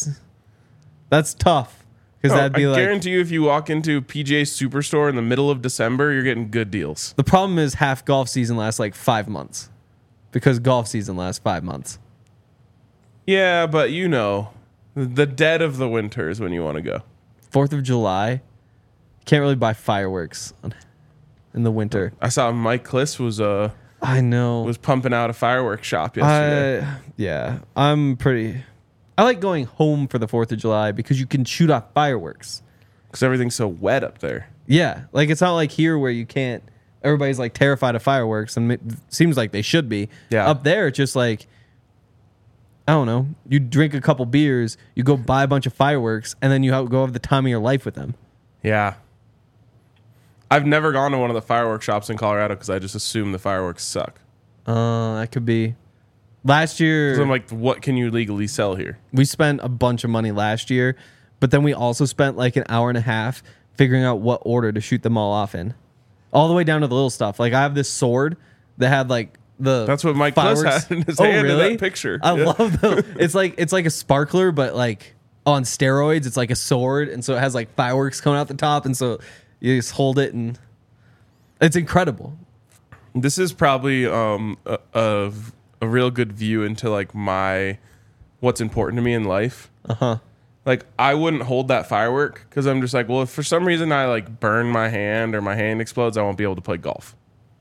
That's tough. Because that'd be I guarantee you, if you walk into PGA Superstore in the middle of December, you're getting good deals. The problem is half golf season lasts like 5 months. Because golf season lasts 5 months. Yeah, but the dead of the winter is when you want to go. 4th of July. Can't really buy fireworks in the winter. I saw Mike Kliss was I know. was pumping out a fireworks shop yesterday. Yeah, I like going home for the 4th of July because you can shoot off fireworks. Because everything's so wet up there. Yeah, like it's not like here where you can't. Everybody's like terrified of fireworks, and it seems like they should be. Yeah. Up there, it's just like, I don't know. You drink a couple beers, you go buy a bunch of fireworks, and then you go have the time of your life with them. Yeah. I've never gone to one of the fireworks shops in Colorado because I just assume the fireworks suck. That could be. Last year, 'Cause I'm like, what can you legally sell here? we spent a bunch of money last year, but then we also spent like an hour and a half figuring out what order to shoot them all off in. All the way down to the little stuff. Like I have this sword that had like the That's what Mike Plus fireworks. had in his Oh, hand in really? that picture. I Yeah. love the it's like a sparkler, but like on steroids. It's like a sword, and so it has like fireworks coming out the top, and so you just hold it, and it's incredible. This is probably a real good view into like what's important to me in life. Uh-huh. Like I wouldn't hold that firework because I'm just like, well, if for some reason I like burn my hand or my hand explodes, I won't be able to play golf.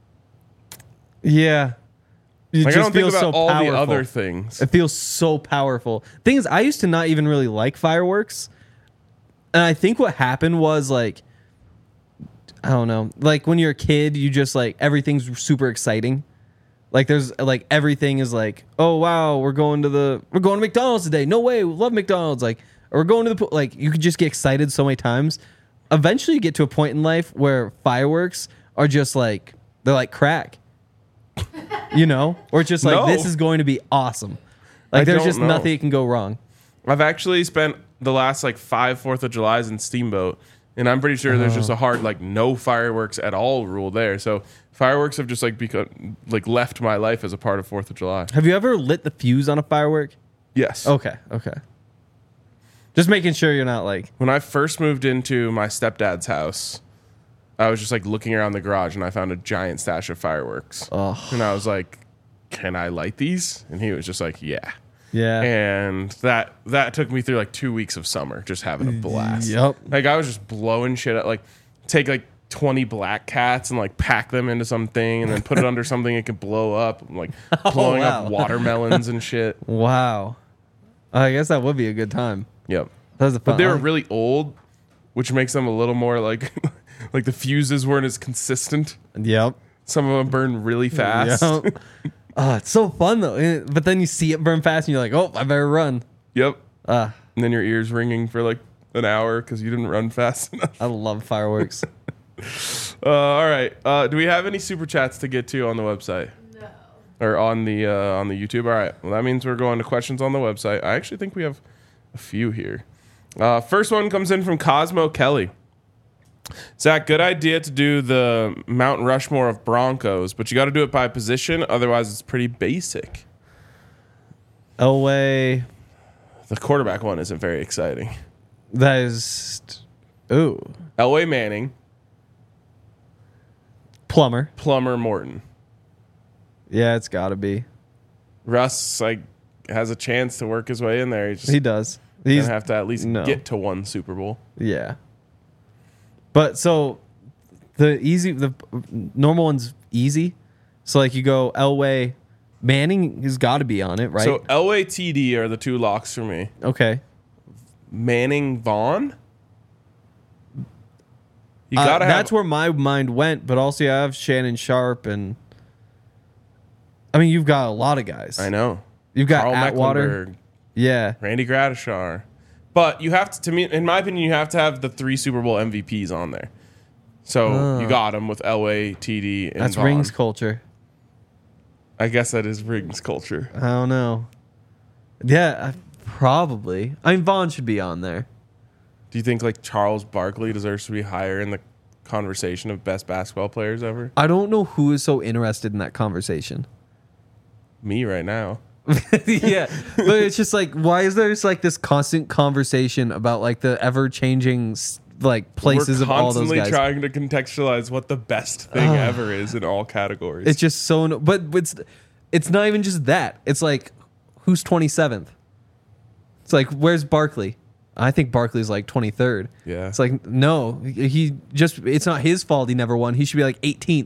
Yeah. It Like I don't think about all the powerful. other things. It feels so powerful. Thing is, I used to not even really like fireworks. And I think what happened was like, I don't know, like when you're a kid, you just like everything's super exciting. Like there's like everything is like, oh wow, we're going to McDonald's today. No way, we love McDonald's. Like, or we're going to the pool. Like you could just get excited so many times. Eventually, you get to a point in life where fireworks are just like they're like crack. You know, or it's just like No. this is going to be awesome. Like there's don't just know. nothing that can go wrong. I've actually spent the last like 5 4th of Julys in Steamboat, and I'm pretty sure there's just a hard like no fireworks at all rule there. So fireworks have just like become like left my life as a part of 4th of July. Have you ever lit the fuse on a firework? Yes. Okay. Just making sure you're not like, When I first moved into my stepdad's house, I was just like looking around the garage and I found a giant stash of fireworks. oh, And I was like, can I light these? And he was just like, yeah. yeah. And that took me through like 2 weeks of summer, just having a blast. Yep. Like I was just blowing shit up, like take like 20 black cats and like pack them into something and then put it under something it could blow up, like blowing wow. up watermelons and shit. Wow. I guess that would be a good time. Yep. That was a fun. But they were really old, which makes them a little more like like the fuses weren't as consistent. Yep. Some of them burn really fast. Yep. Oh, it's so fun though. But then you see it burn fast, and you're like, "Oh, I better run." Yep. Ah, And then your ears ringing for like an hour because you didn't run fast enough. I love fireworks. All right. Do we have any super chats to get to on the website? No. Or on the YouTube? All right. Well, that means we're going to questions on the website. I actually think we have a few here. First one comes in from Cosmo Kelly. Zach, good idea to do the Mount Rushmore of Broncos, but you got to do it by position. Otherwise, it's pretty basic. Elway, The quarterback one isn't very exciting. that is, ooh, Elway Manning, Plumber. Plummer Morton. Yeah, it's got to be. Russ like has a chance to work his way in there. He's just He does. gonna He's have to at least no. get to one Super Bowl. yeah. But so the normal one's easy. So like you go Elway, Manning has got to be on it, right? So Elway, TD are the two locks for me. okay. Manning, Vaughn. You gotta have. That's where my mind went, but also you have Shannon Sharp, and I mean you've got a lot of guys. I know. You've got Carl Atwater. Mecklenburg, Yeah. Randy Gradishar. But you have to me, in my opinion, you have to have the 3 Super Bowl MVPs on there. So you got them with Elway, TD, and That's Vaughn. rings culture. I guess that is rings culture. I don't know. Yeah, probably. I mean Vaughn should be on there. Do you think like Charles Barkley deserves to be higher in the conversation of best basketball players ever? I don't know who is so interested in that conversation. Me right now. Yeah, but it's just like, why is there just like this constant conversation about like the ever changing like places We're of all those constantly guys? trying to contextualize what the best thing ever is in all categories. It's just so, but it's not even just that. It's like, who's 27th? It's like, where's Barkley? I think Barkley's like 23rd. Yeah. It's like, no, it's not his fault he never won. He should be like 18th.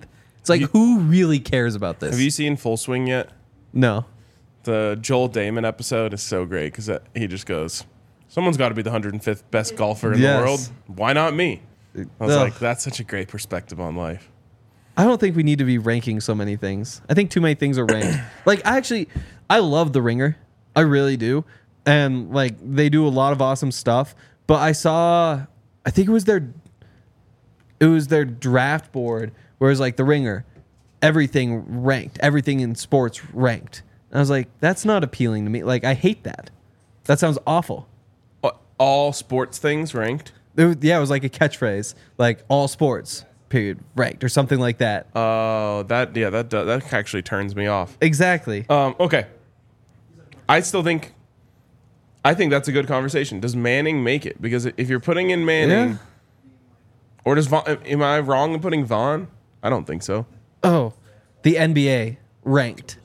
It's like, who really cares about this? Have you seen Full Swing yet? No. The Joel Damon episode is so great because he just goes, someone's got to be the 105th best golfer in the world. Why not me? I was like, that's such a great perspective on life. I don't think we need to be ranking so many things. I think too many things are ranked. Like, I love The Ringer. I really do. And, like, they do a lot of awesome stuff. But I think it was their draft board where it was like The Ringer, everything ranked, everything in sports ranked. And I was like, that's not appealing to me. Like, I hate that. That sounds awful. All sports things ranked? It was like a catchphrase, like all sports, period, ranked, or something like that. Oh, that actually turns me off. Exactly. Okay. I think that's a good conversation. Does Manning make it? Because if you're putting in Manning, or does Vaughn, am I wrong in putting Vaughn? I don't think so. Oh, the NBA ranked.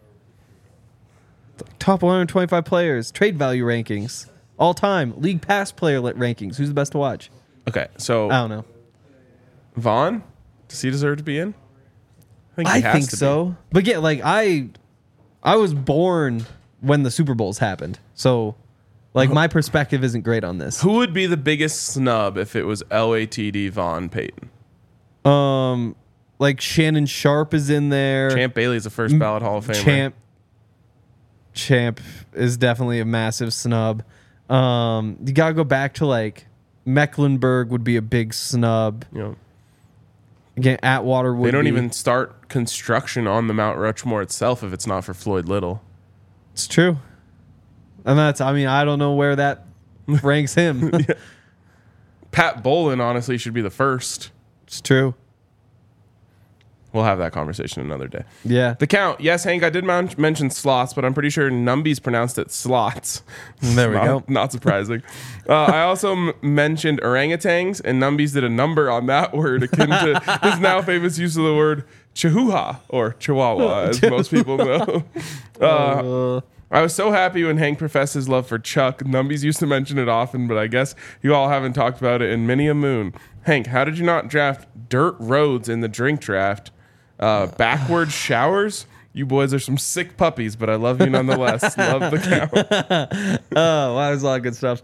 Top 125 players, trade value rankings, all time, league pass player rankings. Who's the best to watch? Okay, so I don't know. Vaughn, does he deserve to be in? I think so. But yeah, like I was born when the Super Bowls happened, so like my perspective isn't great on this. Who would be the biggest snub if it was LATD Vaughn Payton? Like Shannon Sharp is in there. Champ Bailey's a first ballot Hall of Famer. Champ is definitely a massive snub. You gotta go back to like Mecklenburg would be a big snub. You know, again, Atwater would. They don't even start construction on the Mount Rushmore itself if it's not for Floyd Little. It's true, and I don't know where that ranks him. Yeah. Pat Bolin honestly should be the first. It's true. We'll have that conversation another day. Yeah. The count. Yes, Hank, I did mention slots, but I'm pretty sure Numby's pronounced it slots. There we go. Not surprising. I also mentioned orangutans, and Numby's did a number on that word akin to his now famous use of the word chihuahua, or chihuahua, as most people know. I was so happy when Hank professed his love for Chuck. Numby's used to mention it often, but I guess you all haven't talked about it in many a moon. Hank, how did you not draft dirt roads in the drink draft? Backward showers? You boys are some sick puppies, but I love you nonetheless. Love the count. Oh, wow, there's a lot of good stuff.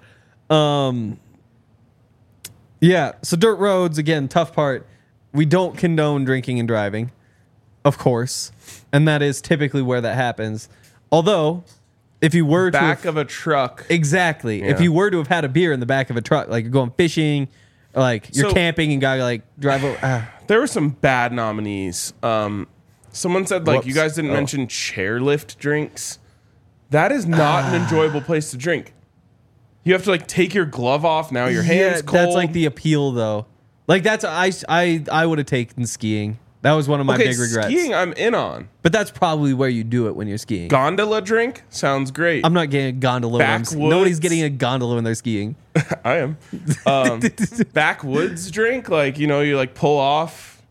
Yeah, so dirt roads, again, tough part. We don't condone drinking and driving, of course. And that is typically where that happens. Although, if you were back of a truck. Exactly. Yeah. If you were to have had a beer in the back of a truck, like you're going fishing, like you're camping and gotta like drive over. There were some bad nominees. Someone said like you guys didn't mention chairlift drinks. That is not an enjoyable place to drink. You have to like take your glove off. Now your hands cold. That's like the appeal though. Like that's I would have taken skiing. That was one of my big regrets. Skiing I'm in on. But that's probably where you do it when you're skiing. Gondola drink sounds great. I'm not getting a gondola. Nobody's getting a gondola when they're skiing. I am. Backwoods drink, like, you know, you like pull off,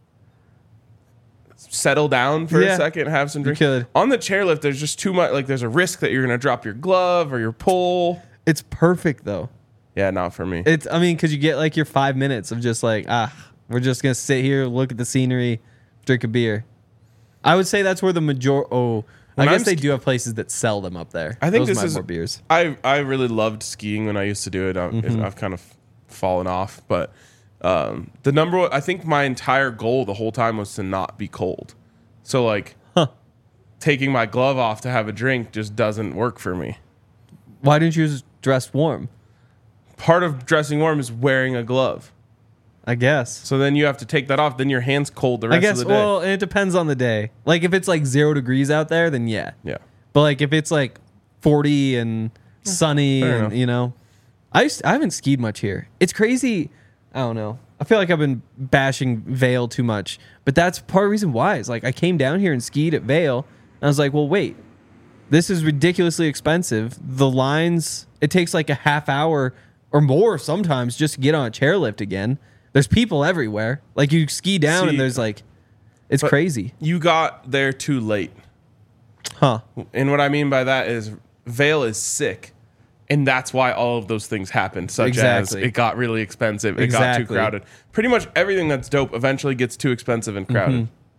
settle down for a second, have some drink. On the chairlift, there's just too much. Like, there's a risk that you're gonna drop your glove or your pole. It's perfect though. Yeah, not for me. Because you get like your 5 minutes of just like we're just gonna sit here, look at the scenery, drink a beer. I would say that's where the I guess they do have places that sell them up there. I think Those this is more beers. I really loved skiing when I used to do it. I've kind of fallen off, but the number one, I think my entire goal the whole time was to not be cold. So like taking my glove off to have a drink just doesn't work for me. Why didn't you just dress warm? Part of dressing warm is wearing a glove. I guess. So then you have to take that off. Then your hand's cold the rest of the day. Well, it depends on the day. Like if it's like 0 degrees out there, then yeah. Yeah. But like if it's like 40 and sunny Fair and enough. you know, I haven't skied much here. It's crazy. I don't know. I feel like I've been bashing Vail too much, but that's part of the reason why. It's like I came down here and skied at Vail, and I was like, well, wait, this is ridiculously expensive. The lines, it takes like a half hour or more sometimes just to get on a chairlift again. There's people everywhere. Like you ski down and there's like, it's crazy. You got there too late. Huh. And what I mean by that is Vail is sick. And that's why all of those things happened, such as it got really expensive, it got too crowded. Pretty much everything that's dope eventually gets too expensive and crowded.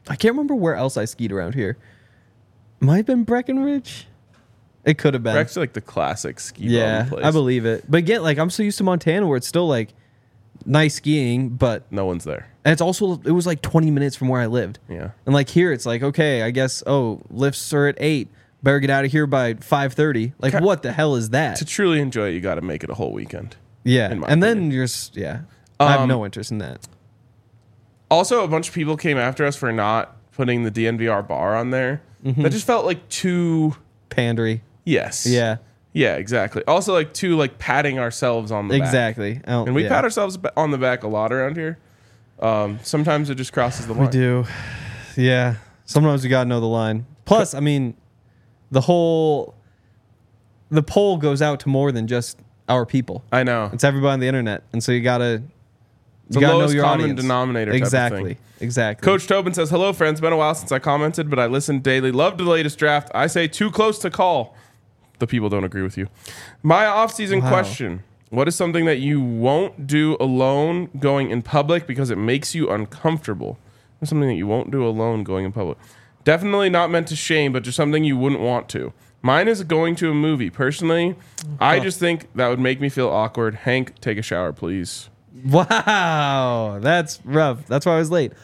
I can't remember where else I skied around here. Might have been Breckenridge. It could have been. Breck's like the classic ski Yeah, bum place. I believe it. But again, like I'm so used to Montana where it's still like nice skiing, but No one's there. and it's also it was like 20 minutes from where I lived. Yeah. And like here it's like, okay, I guess lifts are at 8. Better get out of here by 5:30. Like what the hell is that? To truly enjoy it, you got to make it a whole weekend. Yeah. in my And opinion. then you're I have no interest in that. Also, a bunch of people came after us for not putting the DNVR bar on there. That just felt like too. Pandery. Yes. Yeah. Yeah, exactly. Also, like too like patting ourselves on the back. Exactly. And we pat ourselves on the back a lot around here. Sometimes it just crosses the line. We do. Yeah. Sometimes we got to know the line. Plus, I mean, the poll goes out to more than just our people. I know. It's everybody on the internet. And so you got to The know lowest your common audience. denominator type of Exactly. thing. Exactly. Coach Tobin says, hello, friends. Been a while since I commented, but I listen daily. Loved the latest draft. I say too close to call. The people don't agree with you. My off-season question. What is something that you won't do alone going in public because it makes you uncomfortable? What's something that you won't do alone going in public? Definitely not meant to shame, but just something you wouldn't want to. Mine is going to a movie. Personally, I just think that would make me feel awkward. Hank, take a shower, please. Wow, that's rough. That's why I was late.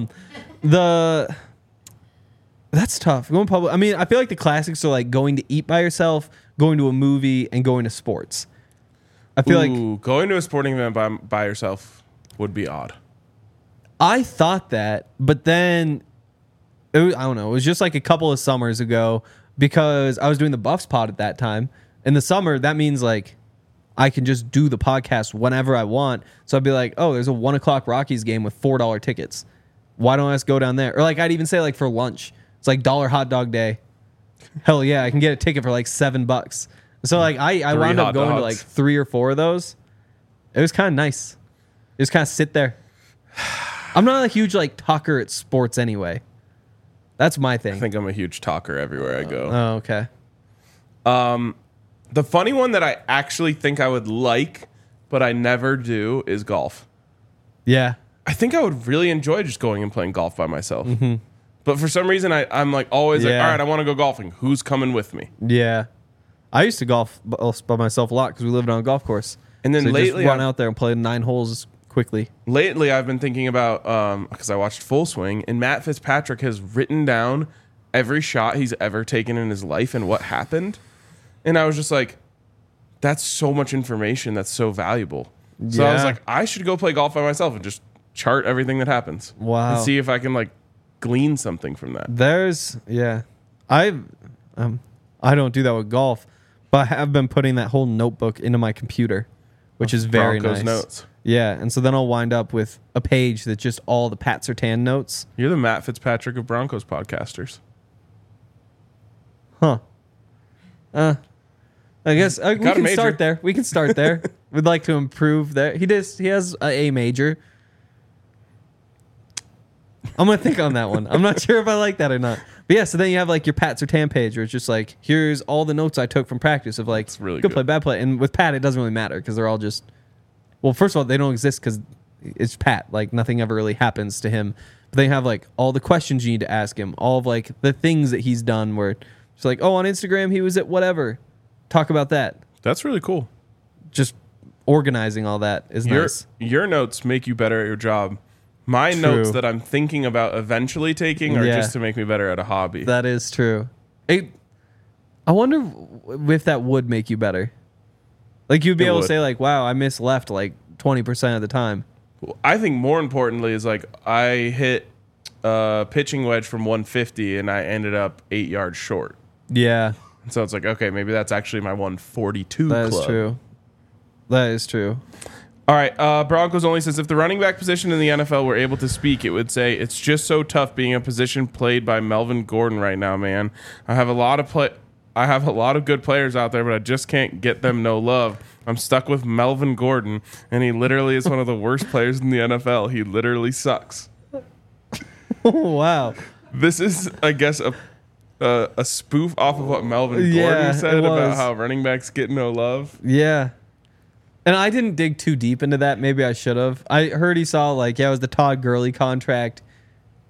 That's tough. Going public. I mean, I feel like the classics are like going to eat by yourself, going to a movie, and going to sports. I feel like Going to a sporting event by yourself would be odd. I thought that, but then I don't know. It was just like a couple of summers ago because I was doing the Buffs pod at that time. In the summer, that means like I can just do the podcast whenever I want. So I'd be like, oh, there's a 1:00 Rockies game with $4 tickets. Why don't I just go down there? Or like I'd even say like for lunch, it's like $1 hot dog day. Hell yeah, I can get a ticket for like $7. So like I wound up going to like 3 or 4 of those. It was kind of nice. Just kind of sit there. I'm not a huge like talker at sports anyway. That's my thing. I think I'm a huge talker everywhere I go. Oh, okay. The funny one that I actually think I would like, but I never do, is golf. Yeah. I think I would really enjoy just going and playing golf by myself. But for some reason, I'm like always like, Yeah. all right, I want to go golfing. Who's coming with me? Yeah. I used to golf by myself a lot because we lived on a golf course. And then So lately, just run out there and play 9 holes quickly. Lately, I've been thinking about, because I watched Full Swing, and Matt Fitzpatrick has written down every shot he's ever taken in his life and what happened. And I was just like, that's so much information that's so valuable. So I was Yeah. like, I should go play golf by myself and just chart everything that happens. Wow. And see if I can like glean something from that. I don't do that with golf, but I have been putting that whole notebook into my computer, which is very Broncos nice. notes. Yeah, and so then I'll wind up with a page that's just all the Pat Surtain notes. You're the Matt Fitzpatrick of Broncos podcasters. Huh. I guess we Got a can major. start there. We can start there. We'd like to improve there. He has a major. I'm going to think on that one. I'm not sure if I like that or not. But yeah, so then you have like your Pat Surtain page where it's just like, here's all the notes I took from practice of like, It's really good good. play, bad play. And with Pat, it doesn't really matter because they're all just, well, first of all, they don't exist because it's Pat. Like nothing ever really happens to him. But they have like all the questions you need to ask him, all of like the things that he's done where it's like, oh, on Instagram, he was at whatever. Talk about that. That's really cool. Just organizing all that is nice. Your notes make you better at your job. My True. notes that I'm thinking about eventually taking are Yeah. just to make me better at a hobby. That is true. I wonder if that would make you better. Like you'd be It able to would. say like, wow, I missed left like 20% of the time. I think more importantly is like I hit a pitching wedge from 150 and I ended up 8 yards short. Yeah, So it's like, okay, maybe that's actually my 142 that club. is true. That is true. All right, Broncos only says if the running back position in the NFL were able to speak, it would say it's just so tough being a position played by Melvin Gordon right now, man. I have a lot of good players out there, but I just can't get them no love. I'm stuck with Melvin Gordon, and he literally is one of the worst players in the NFL. He literally sucks. Wow. This is, I guess, a spoof off of what Melvin Yeah, Gordon said it about was. how running backs get no love. Yeah. And I didn't dig too deep into that. Maybe I should have. I heard he saw like, yeah, it was the Todd Gurley contract.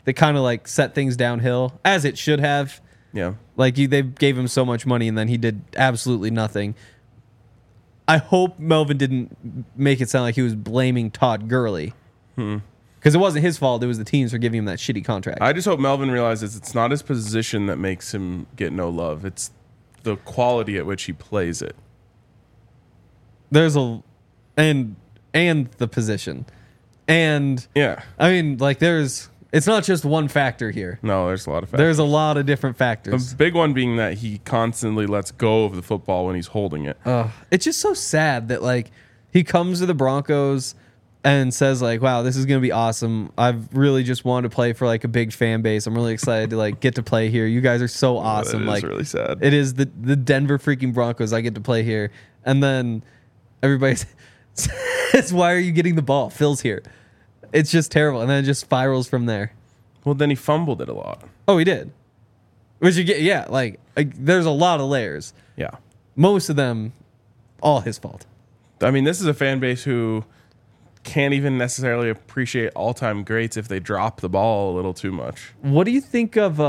that kind of like set things downhill, as it should have. Yeah. Like they gave him so much money and then he did absolutely nothing. I hope Melvin didn't make it sound like he was blaming Todd Gurley. Because it wasn't his fault. It was the teams for giving him that shitty contract. I just hope Melvin realizes it's not his position that makes him get no love. It's the quality at which he plays it. There's a and the position. And Yeah. I mean, like it's not just one factor here. No, there's a lot of factors. There's a lot of different factors. The big one being that he constantly lets go of the football when he's holding it. It's just so sad that like he comes to the Broncos and says like, wow, this is going to be awesome. I've really just wanted to play for like a big fan base. I'm really excited to like get to play here. You guys are so awesome. That is like really sad. It is the Denver freaking Broncos. I get to play here. And then everybody says, why are you getting the ball? Phil's here. It's just terrible. And then it just spirals from there. Well, then he fumbled it a lot. Oh, he did. Which you get, yeah, like there's a lot of layers. Yeah. Most of them, all his fault. I mean, this is a fan base who can't even necessarily appreciate all-time greats if they drop the ball a little too much. What do you think of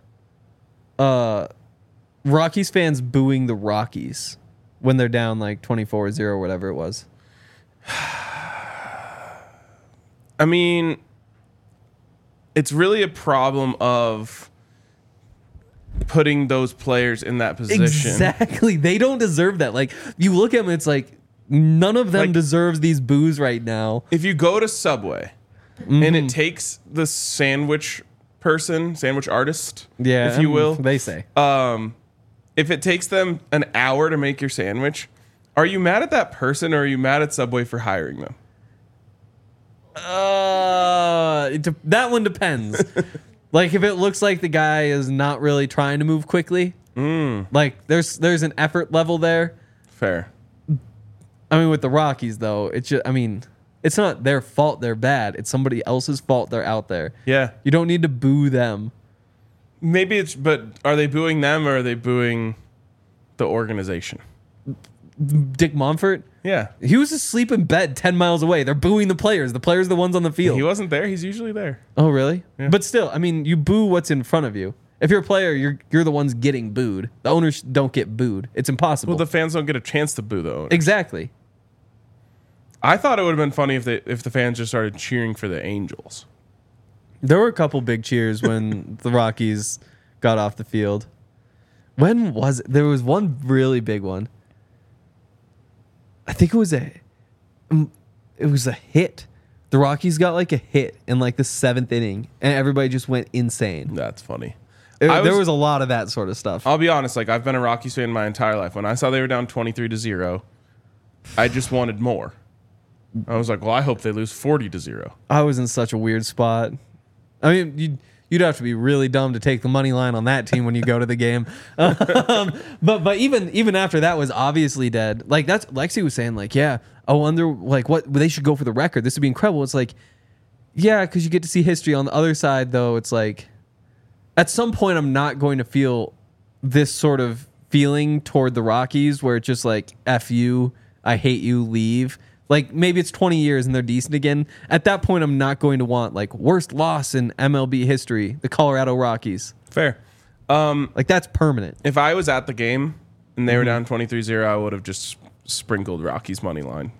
Rockies fans booing the Rockies when they're down like 24-0 or whatever it was? I mean, it's really a problem of putting those players in that position. Exactly. They don't deserve that. Like, you look at them, it's like none of them Like, deserves these boos right now. If you go to Subway and it takes the sandwich artist, if you will, They say. if it takes them an hour to make your sandwich, are you mad at that person or are you mad at Subway for hiring them? That one depends. Like, if it looks like the guy is not really trying to move quickly, like there's an effort level there. Fair. I mean, with the Rockies, though, it's just, I mean, it's not their fault they're bad. It's somebody else's fault they're out there. Yeah. You don't need to boo them. Maybe but are they booing them or are they booing the organization? Dick Monfort, Yeah. he was asleep in bed 10 miles away. They're booing the players. The players are the ones on the field. He wasn't there. He's usually there. Oh, really? Yeah. But still, I mean, you boo what's in front of you. If you're a player, you're the ones getting booed. The owners don't get booed. It's impossible. Well, the fans don't get a chance to boo the owner. Exactly. I thought it would have been funny if the fans just started cheering for the Angels. There were a couple big cheers when the Rockies got off the field. When was it? There was one really big one. I think it was a hit. The Rockies got like a hit in like the 7th inning, and everybody just went insane. That's funny. There was a lot of that sort of stuff. I'll be honest, like I've been a Rockies fan my entire life. When I saw they were down 23-0, I just wanted more. I was like, well, I hope they lose 40-0. I was in such a weird spot. I mean, you'd have to be really dumb to take the money line on that team when you go to the game. But even after that was obviously dead. Like that's Lexi was saying, like, yeah, I wonder like what they should go for the record. This would be incredible. It's like, yeah, because you get to see history. On the other side, though, it's like at some point I'm not going to feel this sort of feeling toward the Rockies where it's just like F you, I hate you, leave. Like, maybe it's 20 years and they're decent again. At that point, I'm not going to want, like, worst loss in MLB history, the Colorado Rockies. Fair. Like, that's permanent. If I was at the game and they were down 23-0, I would have just sprinkled Rockies money line.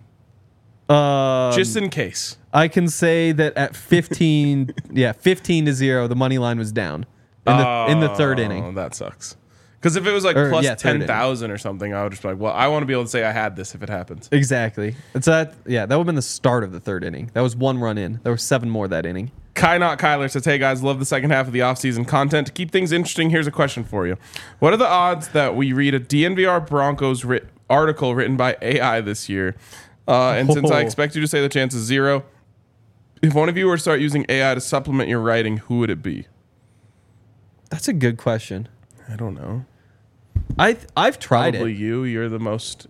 Just in case. I can say that at 15, 15-0, the money line was down in the 3rd inning. Oh, that sucks. Because if it was like plus 10,000 or something, I would just be like, well, I want to be able to say I had this if it happens. Exactly. That would have been the start of the 3rd inning. That was 1 run in. There were 7 more that inning. Kai Not Kyler says, hey guys, love the second half of the offseason content. To keep things interesting, here's a question for you. What are the odds that we read a DNVR Broncos article written by AI this year? And since I expect you to say the chance is 0, if one of you were to start using AI to supplement your writing, who would it be? That's a good question. I don't know. I've tried Probably it. You're the most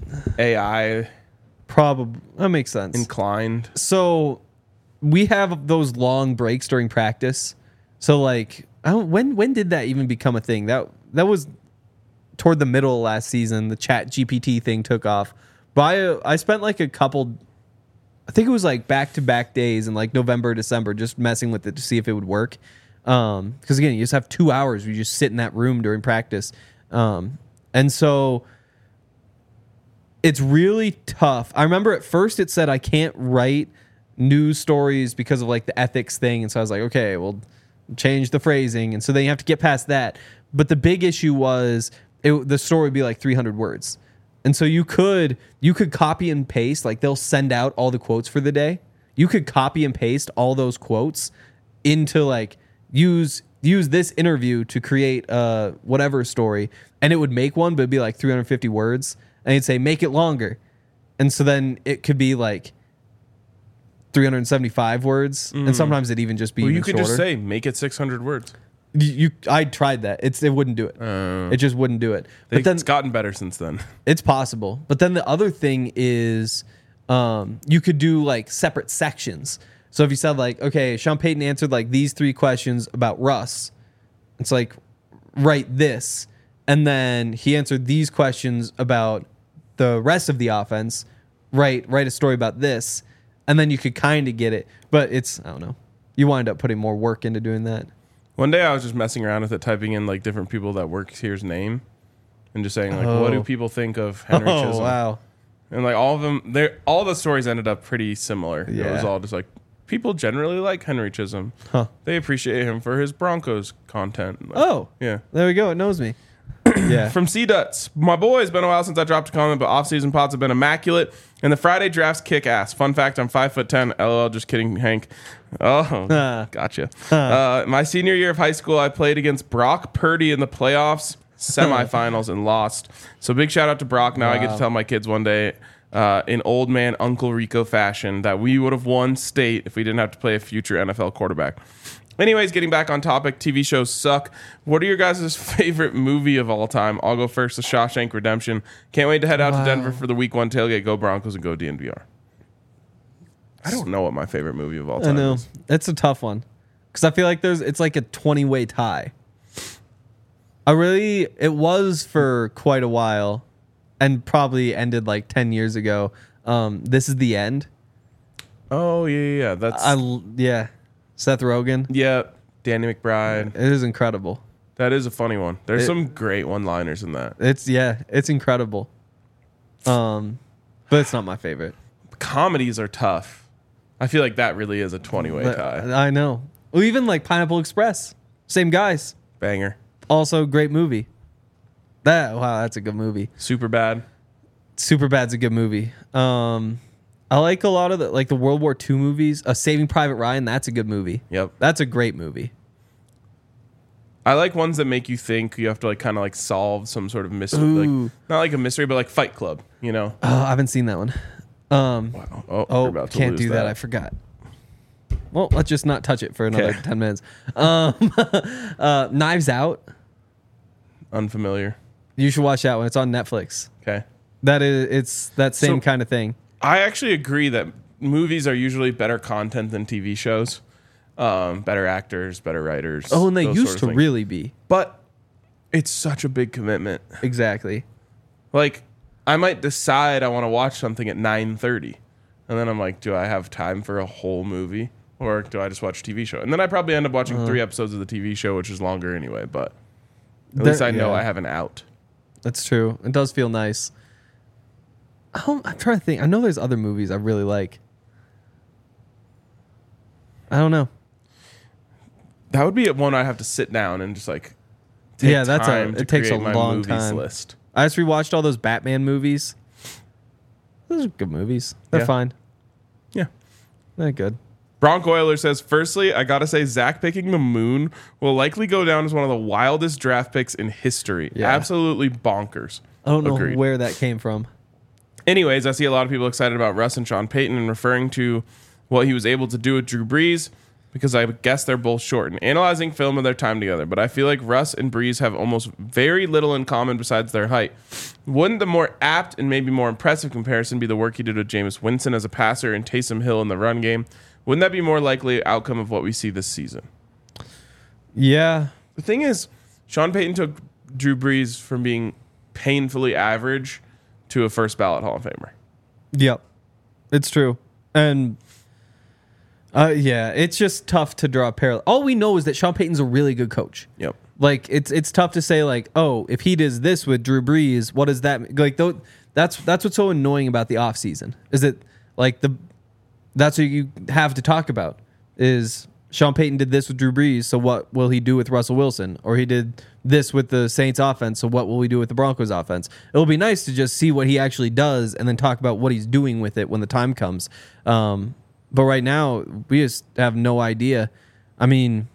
AI Probably. That makes sense. inclined. So we have those long breaks during practice. So like, when did that even become a thing? That was toward the middle of last season. The Chat GPT thing took off. But I spent like a couple I think it was like back-to-back days in like November, December, just messing with it to see if it would work. Because again, you just have 2 hours where you just sit in that room during practice. And so it's really tough. I remember at first it said I can't write news stories because of like the ethics thing. And so I was like, okay, well, change the phrasing. And so then you have to get past that. But the big issue was the story would be like 300 words. And so you could copy and paste, like they'll send out all the quotes for the day. You could copy and paste all those quotes into like use this interview to create whatever story, and it would make one, but it'd be like 350 words. And you'd say, make it longer. And so then it could be like 375 words. And sometimes it'd even just be Well, even you could shorter. just say, make it 600 words. I tried that. It wouldn't do it. It just wouldn't do it. But then It's gotten better since then. it's possible. But then the other thing is you could do like separate sections. So if you said like, okay, Sean Payton answered like these 3 questions about Russ, it's like, write this. And then he answered these questions about the rest of the offense, write a story about this. And then you could kind of get it. But it's, I don't know. You wind up putting more work into doing that. One day I was just messing around with it, typing in like different people that work here's name and just saying like, what do people think of Henry Chisholm? Oh, wow. And like all of them, all the stories ended up pretty similar. It was Yeah. all just like, people generally like Henry Chisholm. Huh. They appreciate him for his Broncos content. Like, Oh. yeah. There we go. It knows me. Yeah. From C Duts, my boy, it's been a while since I dropped a comment, but off-season pods have been immaculate, and the Friday drafts kick ass. Fun fact: I'm 5'10". LOL, just kidding, Hank. Oh, gotcha. My senior year of high school, I played against Brock Purdy in the playoffs, semifinals, and lost. So big shout out to Brock. Now I get to tell my kids one day, in old man Uncle Rico fashion, that we would have won state if we didn't have to play a future NFL quarterback. Anyways, getting back on topic, TV shows suck. What are your guys' favorite movie of all time? I'll go first, The Shawshank Redemption. Can't wait to head out to Denver for the week 1 tailgate. Go Broncos and go DNVR. I don't know what my favorite movie of all time I know. is. It's a tough one. Because I feel like it's like a 20-way tie. It was for quite a while and probably ended like 10 years ago. This Is the End. Oh, yeah. That's Yeah. Seth Rogen. yeah, Danny McBride. It is incredible. That is a funny one. There's some great one-liners in that. It's incredible. But it's not my favorite. Comedies are tough. I feel like that really is a 20-way But tie. I know. Well, even like Pineapple Express. Same guys. Banger. Also great movie. That's a good movie. Super bad. Superbad's a good movie. I like a lot of the World War II movies. Saving Private Ryan, that's a good movie. Yep. That's a great movie. I like ones that make you think. You have to like kind of like solve some sort of mystery. Ooh. Like, not like a mystery, but like Fight Club, you know? Oh, I haven't seen that one. Wow. Oh, Oh, we're about to can't lose do that. I forgot. Well, let's just not touch it for another Okay. 10 minutes. Knives Out. Unfamiliar. You should watch that one. It's on Netflix. Okay. It's that same So- kind of thing. I actually agree that movies are usually better content than TV shows. Better actors, better writers. Oh, and they those used sort of to things. really be. But it's such a big commitment. Exactly. Like, I might decide I want to watch something at 9:30, and then I'm like, do I have time for a whole movie, or do I just watch a TV show? And then I probably end up watching 3 episodes of the TV show, which is longer anyway. But at least I know I have an out. That's true. It does feel nice. I'm trying to think. I know there's other movies I really like. I don't know. That would be one I'd have to sit down and just like take Yeah, time to it takes a create my long movies time. list. I just rewatched all those Batman movies. Those are good movies. They're Yeah. fine. Yeah. They're good. Bronc Oiler says, firstly, I gotta say Zach picking the moon will likely go down as one of the wildest draft picks in history. Yeah. Absolutely bonkers. I don't know Agreed. where that came from. Anyways, I see a lot of people excited about Russ and Sean Payton and referring to what he was able to do with Drew Brees because I guess they're both short and analyzing film of their time together. But I feel like Russ and Brees have almost very little in common besides their height. Wouldn't the more apt and maybe more impressive comparison be the work he did with Jameis Winston as a passer and Taysom Hill in the run game? Wouldn't that be more likely outcome of what we see this season? Yeah. The thing is, Sean Payton took Drew Brees from being painfully average to a first ballot Hall of Famer. Yep. It's true. And yeah, it's just tough to draw a parallel. All we know is that Sean Payton's a really good coach. Yep. Like it's tough to say like, oh, if he does this with Drew Brees, what does that like? That's what's so annoying about the offseason is that like that's what you have to talk about is Sean Payton did this with Drew Brees, so what will he do with Russell Wilson? Or he did this with the Saints offense, so what will we do with the Broncos offense? It'll be nice to just see what he actually does and then talk about what he's doing with it when the time comes. But right now, we just have no idea. I mean,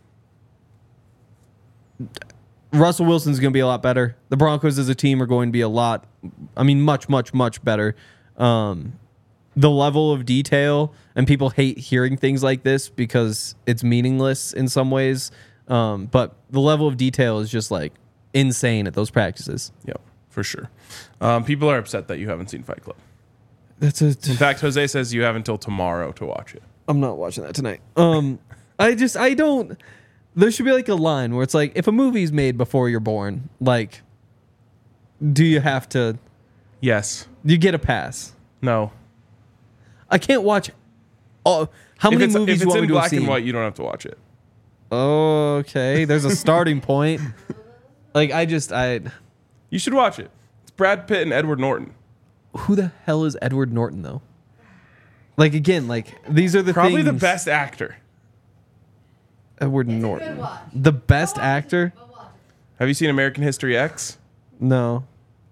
Russell Wilson's going to be a lot better. The Broncos as a team are going to be much, much, much better. The level of detail, and people hate hearing things like this because it's meaningless in some ways. But the level of detail is just like insane at those practices. Yep, for sure. People are upset that you haven't seen Fight Club. In fact, Jose says you have until tomorrow to watch it. I'm not watching that tonight. I don't. There should be like a line where it's like, if a movie's made before you're born, like, do you have to? Yes. You get a pass. No. I can't watch. How many movies do you want me to have seen? If it's in black and white, you don't have to watch it. Okay, there's a starting point. Like You should watch it. It's Brad Pitt and Edward Norton. Who the hell is Edward Norton though? Like again, like these are the probably things. The best actor. Edward Norton, the best actor. Have you seen American History X? No.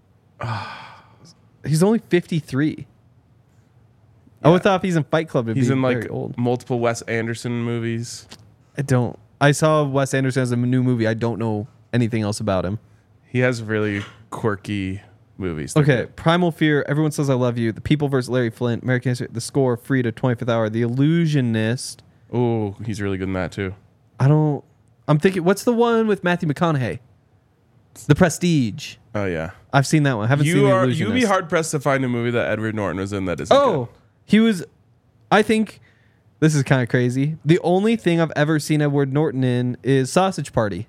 He's only 53. I would thought if he's in Fight Club, he's in like old. Multiple Wes Anderson movies. I saw Wes Anderson as a new movie. I don't know anything else about him. He has really quirky movies. Okay, Primal Fear, Everyone Says I Love You, The People vs. Larry Flint, American History, The Score, Free to 25th Hour, The Illusionist. Oh, he's really good in that too. I'm thinking, what's the one with Matthew McConaughey? The Prestige. Oh yeah, I've seen that one. I haven't seen The Illusionist. You'd be hard pressed to find a movie that Edward Norton was in that isn't good. He was. I think this is kind of crazy. The only thing I've ever seen Edward Norton in is Sausage Party.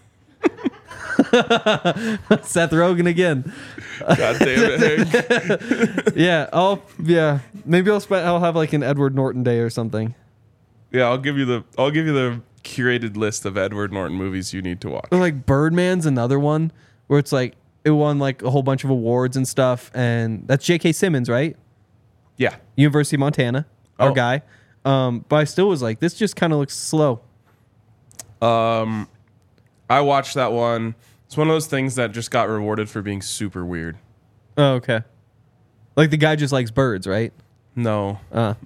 Seth Rogen again. God damn it, Hank. Yeah. Maybe I'll have like an Edward Norton day or something. Yeah, I'll give you the curated list of Edward Norton movies you need to watch. Or like Birdman's another one where it's like it won like a whole bunch of awards and stuff, and that's J.K. Simmons, right? Yeah, University of Montana, our guy. But I still was like, this just kind of looks slow. I watched that one. It's one of those things that just got rewarded for being super weird. Oh, okay. Like the guy just likes birds, right? No.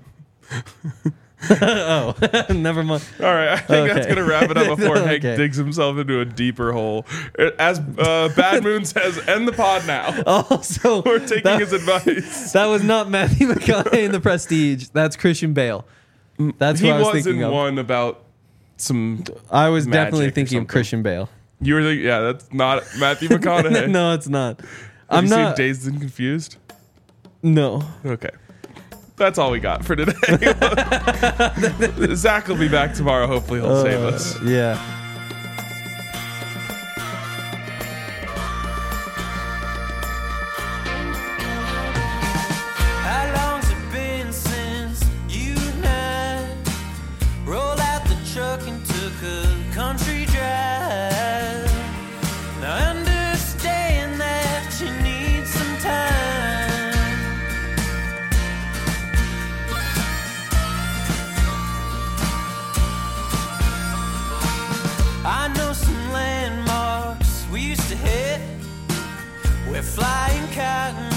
Oh, never mind. All right, I think that's going to wrap it up before Hank digs himself into a deeper hole. As Bad Moon says, end the pod now. Oh, so we're taking his advice. That was not Matthew McConaughey in The Prestige. That's Christian Bale. That's what I was thinking of. He was in one about some I was definitely thinking of Christian Bale. You were thinking, yeah, that's not Matthew McConaughey. No, it's not. Have you seen Dazed and Confused? No. Okay. That's all we got for today. Zach will be back tomorrow. Hopefully he'll save us. Yeah. How long's it been since you and I rolled out the truck and took a country drive? Now I understand that you need some time. I know some landmarks we used to hit. We're flying cotton